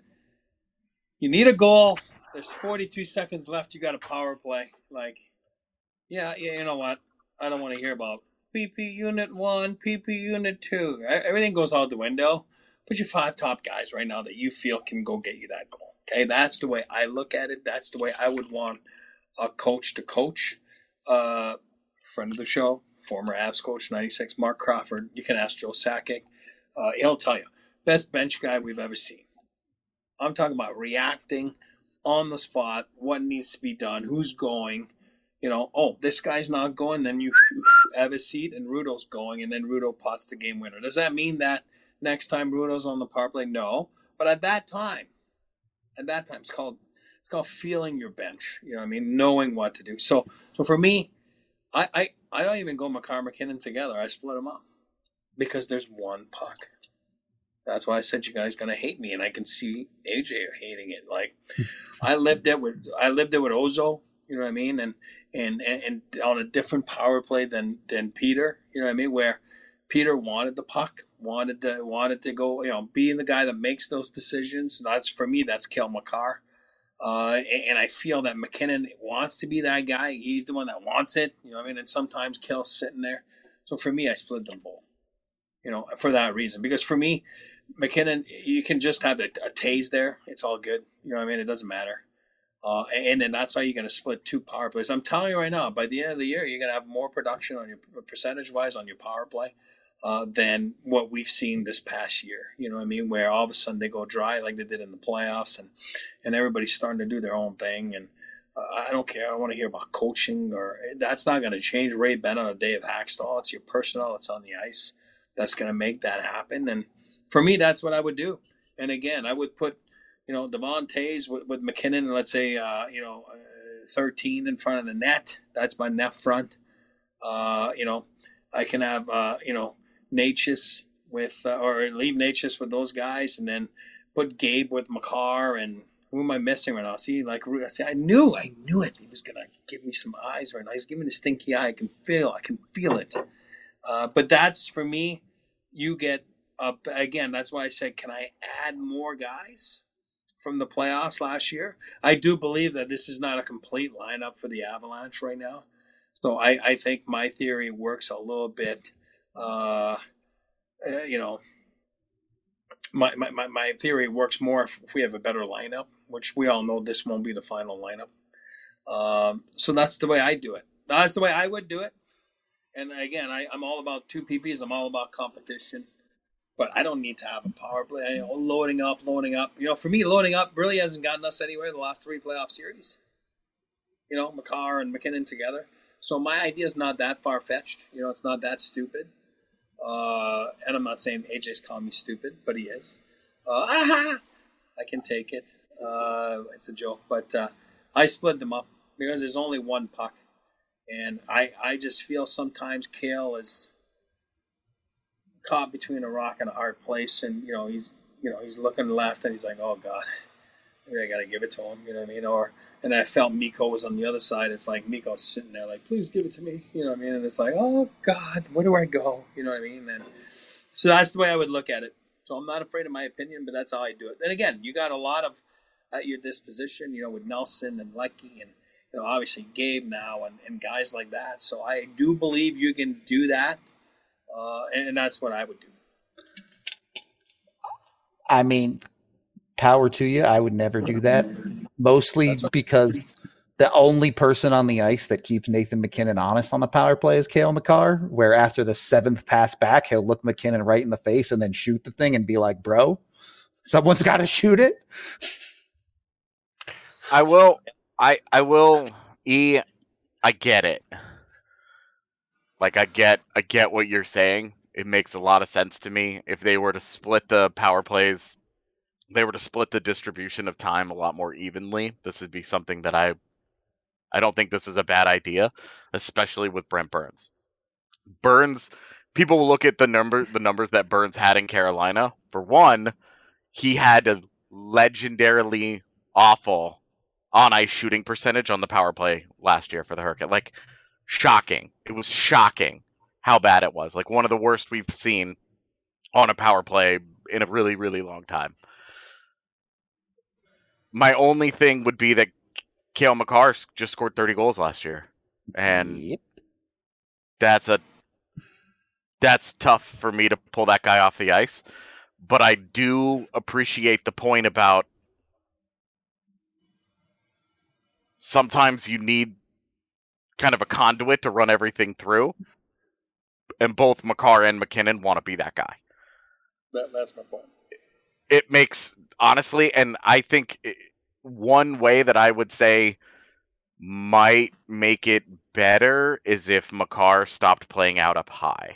you need a goal. There's forty-two seconds left. You got a power play. Like, yeah, yeah. You know what? I don't want to hear about P P Unit One, P P Unit Two. Everything goes out the window. Put your five top guys right now that you feel can go get you that goal. Okay, that's the way I look at it. That's the way I would want a coach to coach. Uh, friend of the show, former Avs coach, ninety-six, Mark Crawford. You can ask Joe Sakic. Uh, he'll tell you. Best bench guy we've ever seen. I'm talking about reacting on the spot, what needs to be done, who's going. You know, oh, this guy's not going, then you have a seat and Rudo's going, and then Rudo pots the game winner. Does that mean that next time Rudo's on the power play? No. But at that time, at that time, it's called it's called feeling your bench. You know what I mean? Knowing what to do. So so for me, I, I, I don't even go Makar McKinnon together. I split them up because there's one puck. That's why I said you guys gonna hate me, and I can see A J hating it. Like I lived it with I lived it with Ozo. You know what I mean? And and and, and on a different power play than than Peter. You know what I mean? Where Peter wanted the puck, wanted to wanted to go. You know, being the guy that makes those decisions. That's for me. That's Kel Makar. Uh, and, and I feel that McKinnon wants to be that guy. He's the one that wants it. You know what I mean? And sometimes Kel's sitting there. So for me, I split them both. You know, for that reason. Because for me, McKinnon, you can just have a, a tase there. It's all good. You know what I mean? It doesn't matter. Uh, and then that's how you're going to split two power plays. I'm telling you right now, by the end of the year, you're going to have more production on your percentage-wise on your power play uh, than what we've seen this past year. You know what I mean? Where all of a sudden they go dry like they did in the playoffs, and, and everybody's starting to do their own thing. And uh, I don't care. I don't want to hear about coaching, or that's not going to change Ray Bennett on a day of Hackstall. It's your personnel that's on the ice that's going to make that happen. And for me, that's what I would do. And again, I would put, you know, Devon Toews with, with McKinnon, and let's say, uh, you know, uh, thirteen in front of the net. That's my net front. Uh, you know, I can have, uh, you know, Natchez with, uh, or leave Natchez with those guys, and then put Gabe with Makar. And who am I missing right now? See, like, I see, I knew, I knew it. He was going to give me some eyes right now. He's giving me the stinky eye. I can feel, I can feel it. Uh, but that's, for me, you get, uh, again, that's why I said, can I add more guys from the playoffs last year? I do believe that this is not a complete lineup for the Avalanche right now. So I, I think my theory works a little bit, uh, uh, you know, my, my, my, my theory works more if, if we have a better lineup, which we all know this won't be the final lineup. Um, so that's the way I do it. That's the way I would do it. And again, I, I'm all about two P Ps. I'm all about competition. But I don't need to have a power play. You know, loading up, loading up. You know, for me, loading up really hasn't gotten us anywhere in the last three playoff series. You know, Makar and McKinnon together. So my idea is not that far-fetched. You know, it's not that stupid. Uh, and I'm not saying A J's calling me stupid, but he is. Uh, aha! I can take it. Uh, it's a joke, but uh, I split them up because there's only one puck, and I I just feel sometimes Cale is caught between a rock and a hard place, and you know he's you know he's looking left and he's like, oh God, maybe I got to give it to him. You know what I mean? Or and I felt Mikko was on the other side. It's like Mikko's sitting there like, please give it to me. You know what I mean? And it's like, oh God, where do I go? You know what I mean? And so that's the way I would look at it. So I'm not afraid of my opinion, but that's how I do it. And again, you got a lot of at your disposition, you know, with Nelson and Lecky and, you know, obviously Gabe now and, and guys like that. So I do believe you can do that. Uh, and, and that's what I would do. I mean, power to you. I would never do that. Mostly because the only person on the ice that keeps Nathan MacKinnon honest on the power play is Cale Makar, where after the seventh pass back, he'll look MacKinnon right in the face and then shoot the thing and be like, bro, someone's got to shoot it. I will, I, I will, E, I get it. Like, I get, I get what you're saying. It makes a lot of sense to me. If they were to split the power plays, they were to split the distribution of time a lot more evenly, this would be something that I, I don't think this is a bad idea, especially with Brent Burns. Burns, people will look at the number, the numbers that Burns had in Carolina. For one, he had a legendarily awful on-ice shooting percentage on the power play last year for the Hurricane. Like, shocking. It was shocking how bad it was. Like, one of the worst we've seen on a power play in a really, really long time. My only thing would be that Cale Makar just scored thirty goals last year. And yep. that's a that's tough for me to pull that guy off the ice. But I do appreciate the point about sometimes you need kind of a conduit to run everything through. And both Makar and MacKinnon want to be that guy. That, that's my point. It makes, honestly, and I think it, one way that I would say might make it better is if Makar stopped playing out up high.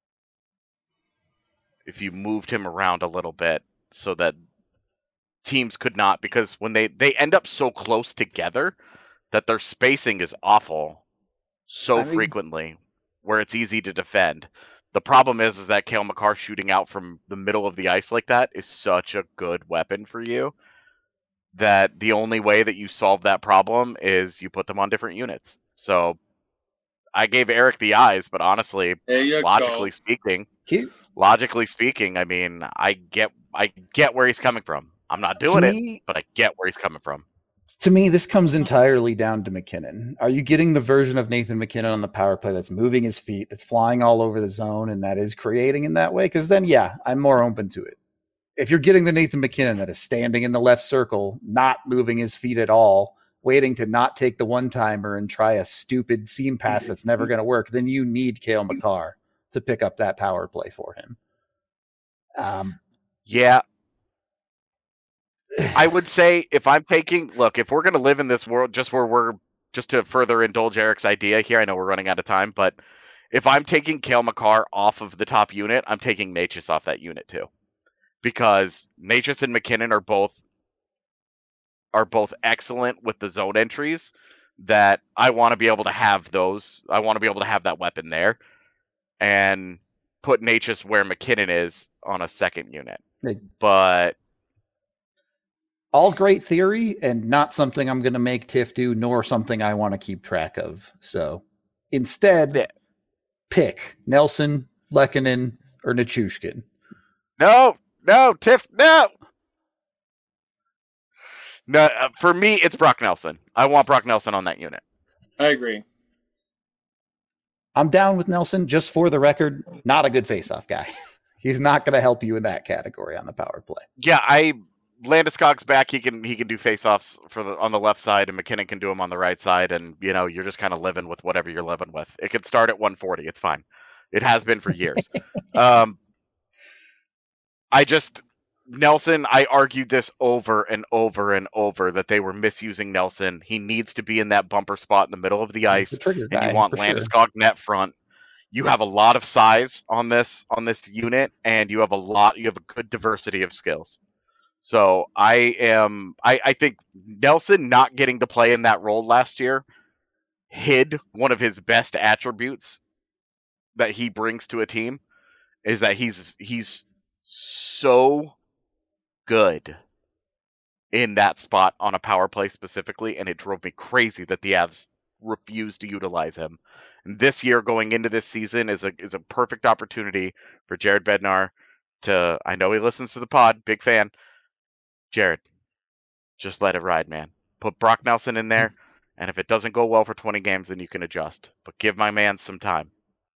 If you moved him around a little bit so that teams could not, because when they, they end up so close together that their spacing is awful so I mean, frequently where it's easy to defend. The problem is, is that Cale Makar shooting out from the middle of the ice like that is such a good weapon for you that the only way that you solve that problem is you put them on different units. So I gave Eric the eyes, but honestly, logically go. speaking, Cute. logically speaking, I mean, I get, I get where he's coming from. I'm not doing to it, me, but I get where he's coming from. To me, this comes entirely down to MacKinnon. Are you getting the version of Nathan MacKinnon on the power play that's moving his feet, that's flying all over the zone, and that is creating in that way? Because then, yeah, I'm more open to it. If you're getting the Nathan MacKinnon that is standing in the left circle, not moving his feet at all, waiting to not take the one-timer and try a stupid seam pass that's never going to work, then you need Cale Makar to pick up that power play for him. Um, yeah. I would say if I'm taking, look, if we're going to live in this world just where we're, just to further indulge Eric's idea here, I know we're running out of time, but if I'm taking Cale Makar off of the top unit, I'm taking Necas off that unit too. Because Necas and MacKinnon are both, are both excellent with the zone entries that I want to be able to have those. I want to be able to have that weapon there and put Necas where MacKinnon is on a second unit. But all great theory and not something I'm going to make Tiff do, nor something I want to keep track of. So instead, yeah. pick Nelson, Lehkonen, or Nichushkin. No, no, Tiff, no. No, uh, for me, it's Brock Nelson. I want Brock Nelson on that unit. I agree. I'm down with Nelson. Just for the record, not a good face-off guy. He's not going to help you in that category on the power play. Yeah, I... Landeskog's back. He can he can do face-offs for the on the left side, and MacKinnon can do them on the right side. And you know, you're just kind of living with whatever you're living with. It could start at one forty. It's fine. It has been for years. um, I just Nelson. I argued this over and over and over that they were misusing Nelson. He needs to be in that bumper spot in the middle of the ice, the and you want Landeskog sure. net front. you have a lot of size on this on this unit, and you have a lot you have a good diversity of skills. So I am I, I think Nelson not getting to play in that role last year hid one of his best attributes that he brings to a team, is that he's he's so good in that spot on a power play specifically, and it drove me crazy that the Avs refused to utilize him. And this year, going into this season, is a is a perfect opportunity for Jared Bednar to. I know he listens to the pod, big fan. Jared, just let it ride, man. Put Brock Nelson in there, and if it doesn't go well for twenty games, then you can adjust. But give my man some time.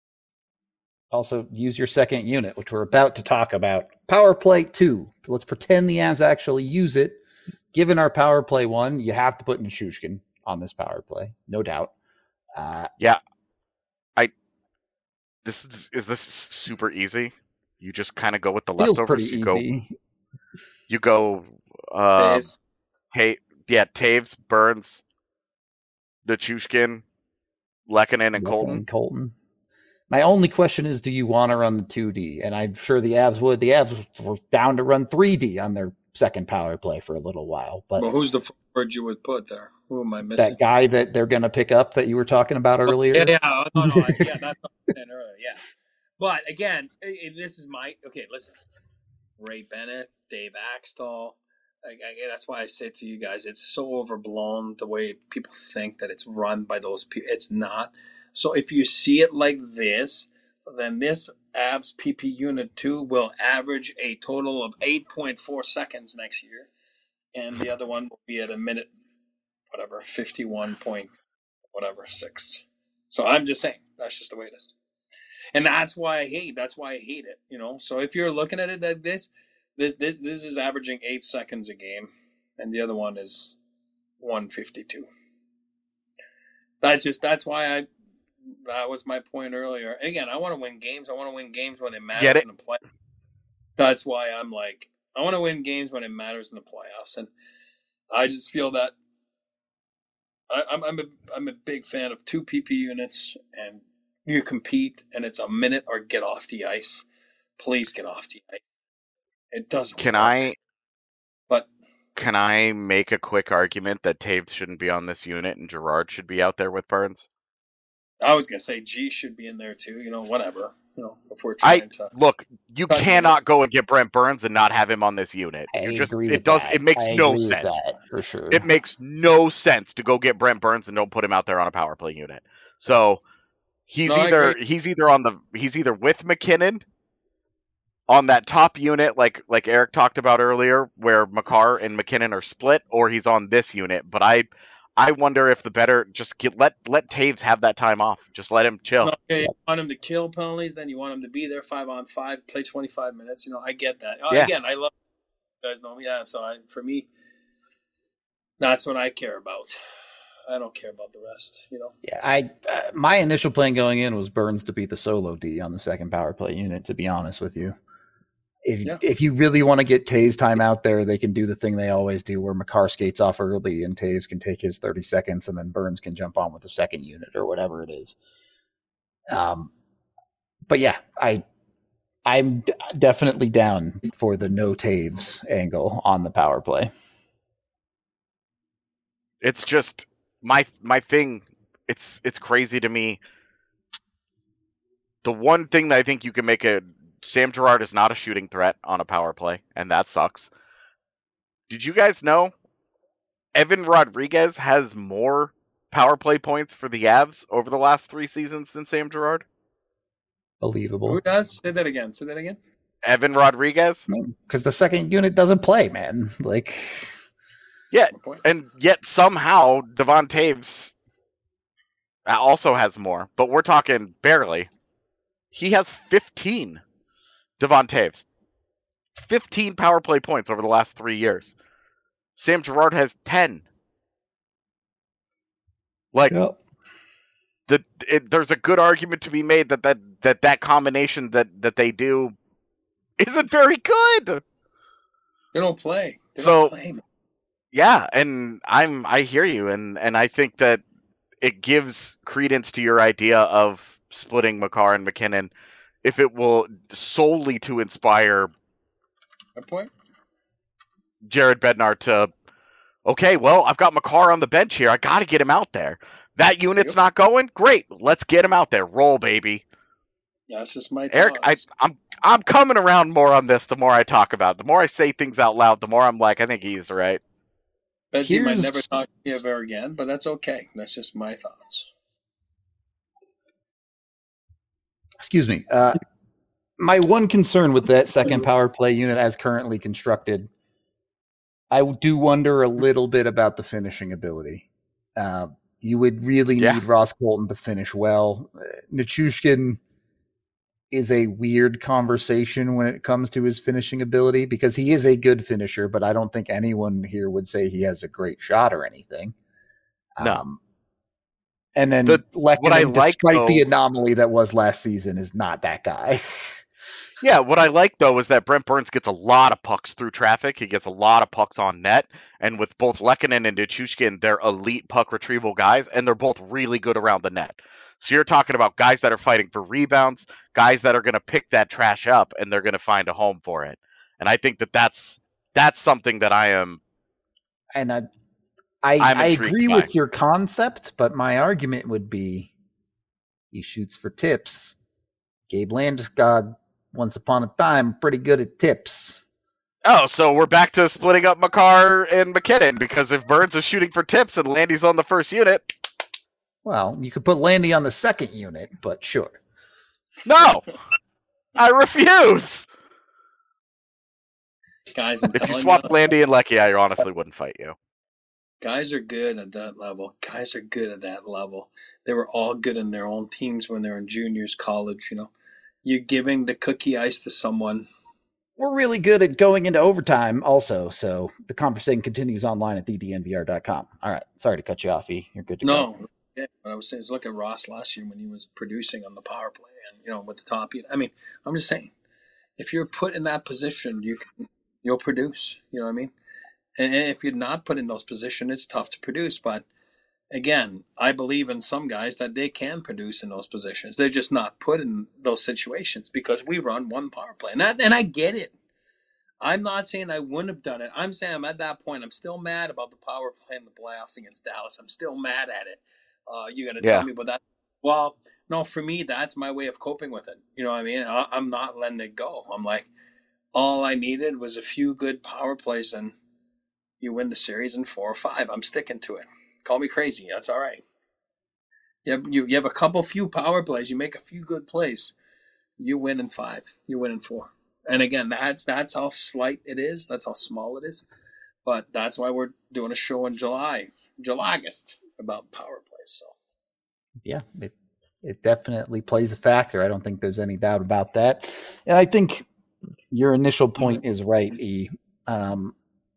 Also, use your second unit, which we're about to talk about. Power play two. Let's pretend the Avs actually use it. Given our power play one, you have to put Nichushkin on this power play, no doubt. Uh, yeah, I. This is is this super easy? You just kind of go with the feels leftovers. Pretty you easy. go. You go. Uh, Ta- yeah, Taves, Burns, Nichushkin, Lehkonen, and Colton. And Colton. My only question is, do you want to run the two D? And I'm sure the Avs would. The Avs were down to run three D on their second power play for a little while. But well, who's the forward you would put there? Who am I missing? That guy that they're going to pick up that you were talking about earlier. Oh, yeah, yeah, no, no, yeah, that's what I said earlier. Yeah, but again, it, this is my okay. Listen, Ray Bennett, Dave Axtell. I, I, that's why I say to you guys, it's so overblown the way people think that it's run by those people. It's not. So if you see it like this, then this Avs P P Unit two will average a total of eight point four seconds next year. And the other one will be at a minute, whatever, fifty-one point, whatever, six. So I'm just saying, that's just the way it is. And that's why I hate, that's why I hate it, you know. So if you're looking at it like this, this, this, this is averaging eight seconds a game. And the other one is one fifty-two. That's just, that's why I, that was my point earlier. And again, I want to win games. I want to win games when it matters it? in the play. That's why I'm like, I want to win games when it matters in the playoffs. And I just feel that I, I'm I'm a, I'm a big fan of two P P units, and you compete, and it's a minute or get off the ice. Please get off the ice. It doesn't Can work. I, but can I make a quick argument that Taves shouldn't be on this unit and Girard should be out there with Burns? I was gonna say G should be in there too. You know, whatever. You know, if we're trying I to look, you cannot go and get Brent Burns and not have him on this unit. I you just agree it with does that. it makes I no agree with sense. that, for sure. It makes no sense to go get Brent Burns and don't put him out there on a power play unit. So he's No, I either agree. he's either on the he's either with McKinnon on that top unit like like Eric talked about earlier, where Makar and McKinnon are split, or he's on this unit. But I I wonder if the better just get let let Taves have that time off. Just let him chill. No, okay, you want him to kill penalties, then you want him to be there five on five, play twenty-five minutes. You know, I get that. Yeah. Again, I love you guys know me. Yeah, so I, for me, that's what I care about. I don't care about the rest, you know. Yeah, I uh, my initial plan going in was Burns to be the solo D on the second power play unit, to be honest with you. If Yeah. if you really want to get Taves time out there, they can do the thing they always do where Makar skates off early and Taves can take his thirty seconds and then Burns can jump on with the second unit or whatever it is. Um, but yeah, I I'm d- definitely down for the no Taves angle on the power play. It's just my my thing. It's it's crazy to me. The one thing that I think you can make a Sam Girard is not a shooting threat on a power play, and that sucks. Did you guys know Evan Rodriguez has more power play points for the Avs over the last three seasons than Sam Girard? Believable. Who does? Say that again. Say that again. Evan Rodriguez? Because the second unit doesn't play, man. Like, yeah, and yet somehow Devon Taves also has more, but we're talking barely. He has fifteen. Devon Taves. fifteen power play points over the last three years. Sam Girard has ten. Like, yep. the it, there's a good argument to be made that that, that, that combination that, that they do isn't very good. They don't play. They so, don't play. yeah, and I'm I hear you, and, and I think that it gives credence to your idea of splitting Makar and McKinnon if it will solely to inspire Good point. Jared Bednar to, okay, well, I've got Makar on the bench here. I got to get him out there. That unit's Yep. not going? Great. Let's get him out there. Roll, baby. That's just my Eric, I, thoughts. I'm I'm coming around more on this the more I talk about it. The more I say things out loud, the more I'm like, I think he's right. Betsy might Here's- never talk to you ever again, but that's okay. That's just my thoughts. Excuse me. Uh, my one concern with that second power play unit as currently constructed, I do wonder a little bit about the finishing ability. Uh, you would really Yeah. need Ross Colton to finish well. Uh, Nichushkin is a weird conversation when it comes to his finishing ability because he is a good finisher, but I don't think anyone here would say he has a great shot or anything. No. Um, and then The- what I Lehkonen, like, despite the though- anomaly that was last season, is not that guy. Yeah, what I like though is that Brent Burns gets a lot of pucks through traffic. He gets a lot of pucks on net, and with both Lehkonen and Nichushkin, they're elite puck retrieval guys, and they're both really good around the net. So you're talking about guys that are fighting for rebounds, guys that are going to pick that trash up, and they're going to find a home for it. And I think that that's that's something that I am. And I, I, I'm I intrigued agree by. with your concept, but my argument would be he shoots for tips. Gabe Landeskog, once upon a time, pretty good at tips. Oh, so we're back to splitting up Makar and McKinnon because if Burns is shooting for tips and Landy's on the first unit, Well, you could put Landy on the second unit, but sure. no, I refuse. Guys, I'm If you telling swap you, Landy and Lecky, I honestly wouldn't fight you. guys are good at that level. Guys are good at that level. They were all good in their own teams when they were in juniors, college. You know, you're giving the cookie ice to someone. We're really good at going into overtime also, so the conversation continues online at the d n v r dot com. All right. Sorry to cut you off, E. You're good to go. No, yeah, what I was saying is look at Ross last year when he was producing on the power play and you know with the top. I mean, I'm just saying, if you're put in that position, you can you'll produce. You know what I mean? And, and if you're not put in those positions, it's tough to produce. But again, I believe in some guys that they can produce in those positions. They're just not put in those situations because we run one power play, and that, and I get it. I'm not saying I wouldn't have done it. I'm saying I'm at that point. I'm still mad about the power play in the playoffs against Dallas. I'm still mad at it. Uh, you're going to Yeah. tell me about that? Well, no, for me, that's my way of coping with it. You know what I mean? I, I'm not letting it go. I'm like, all I needed was a few good power plays, and you win the series in four or five. I'm sticking to it. Call me crazy. That's all right. You have, you, you have a couple few power plays. You make a few good plays. You win in five. You win in four. And again, that's that's how slight it is. That's how small it is. But that's why we're doing a show in July, July, August about power plays. So Yeah, it, it definitely plays a factor. I don't think there's any doubt about that. And I think your initial point is right, E. Um,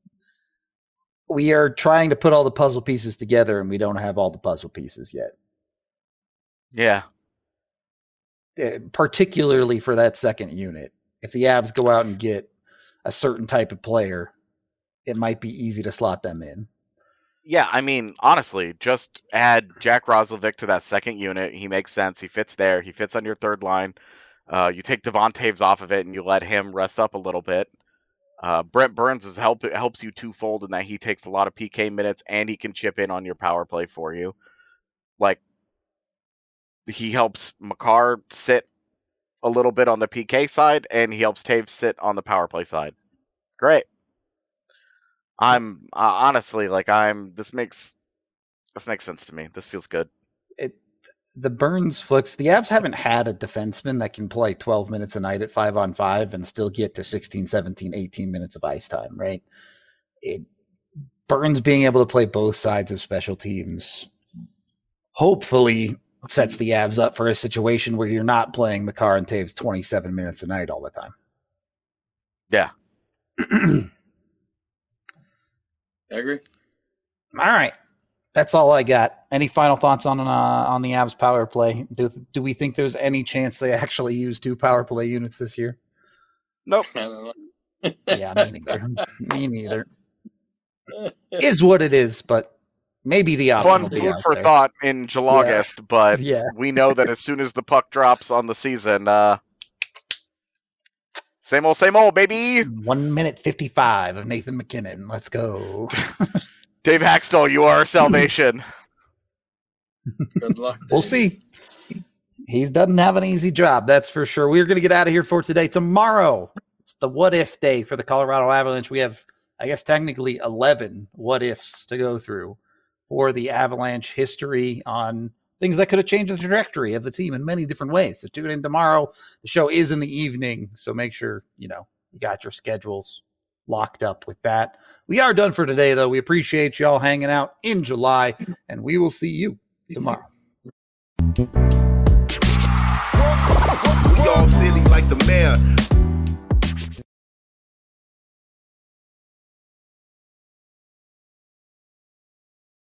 we are trying to put all the puzzle pieces together, and we don't have all the puzzle pieces yet. Yeah. Uh, particularly for that second unit. If the Avs go out and get a certain type of player, it might be easy to slot them in. Yeah, I mean, honestly, just add Jack Roslovic to that second unit. He makes sense. He fits there. He fits on your third line. Uh, you take Devon Taves off of it, and you let him rest up a little bit. Uh, Brent Burns is help helps you twofold in that he takes a lot of P K minutes, and he can chip in on your power play for you. Like, he helps Makar sit a little bit on the P K side, and he helps Taves sit on the power play side. Great. I'm uh, honestly like I'm. This makes this makes sense to me. This feels good. It the Burns flicks. The Avs haven't had a defenseman that can play twelve minutes a night at five on five and still get to sixteen, seventeen, eighteen minutes of ice time, right? It Burns being able to play both sides of special teams hopefully sets the Avs up for a situation where you're not playing Makar and Taves twenty-seven minutes a night all the time. Yeah. I agree. All right. That's all I got. Any final thoughts on uh, on the Avs power play? Do do we think there's any chance they actually use two power play units this year? Nope. I don't know. Yeah, me neither. Me neither. Is what it is, but maybe the option Fun will be food out for there. thought in July, but Yeah. we know that as soon as the puck drops on the season, uh, same old, same old, baby. One minute fifty-five of Nathan McKinnon. Let's go. Dave Haxtell, you are our salvation. Good luck. We'll Dave. see. He doesn't have an easy job, that's for sure. We're going to get out of here for today. Tomorrow, it's the what if day for the Colorado Avalanche. We have, I guess, technically eleven what ifs to go through for the Avalanche history on things that could have changed the trajectory of the team in many different ways. So tune in tomorrow. The show is in the evening, so make sure, you know, you got your schedules locked up with that. We are done for today, though. We appreciate y'all hanging out in July, and we will see you tomorrow. We all silly like the mayor.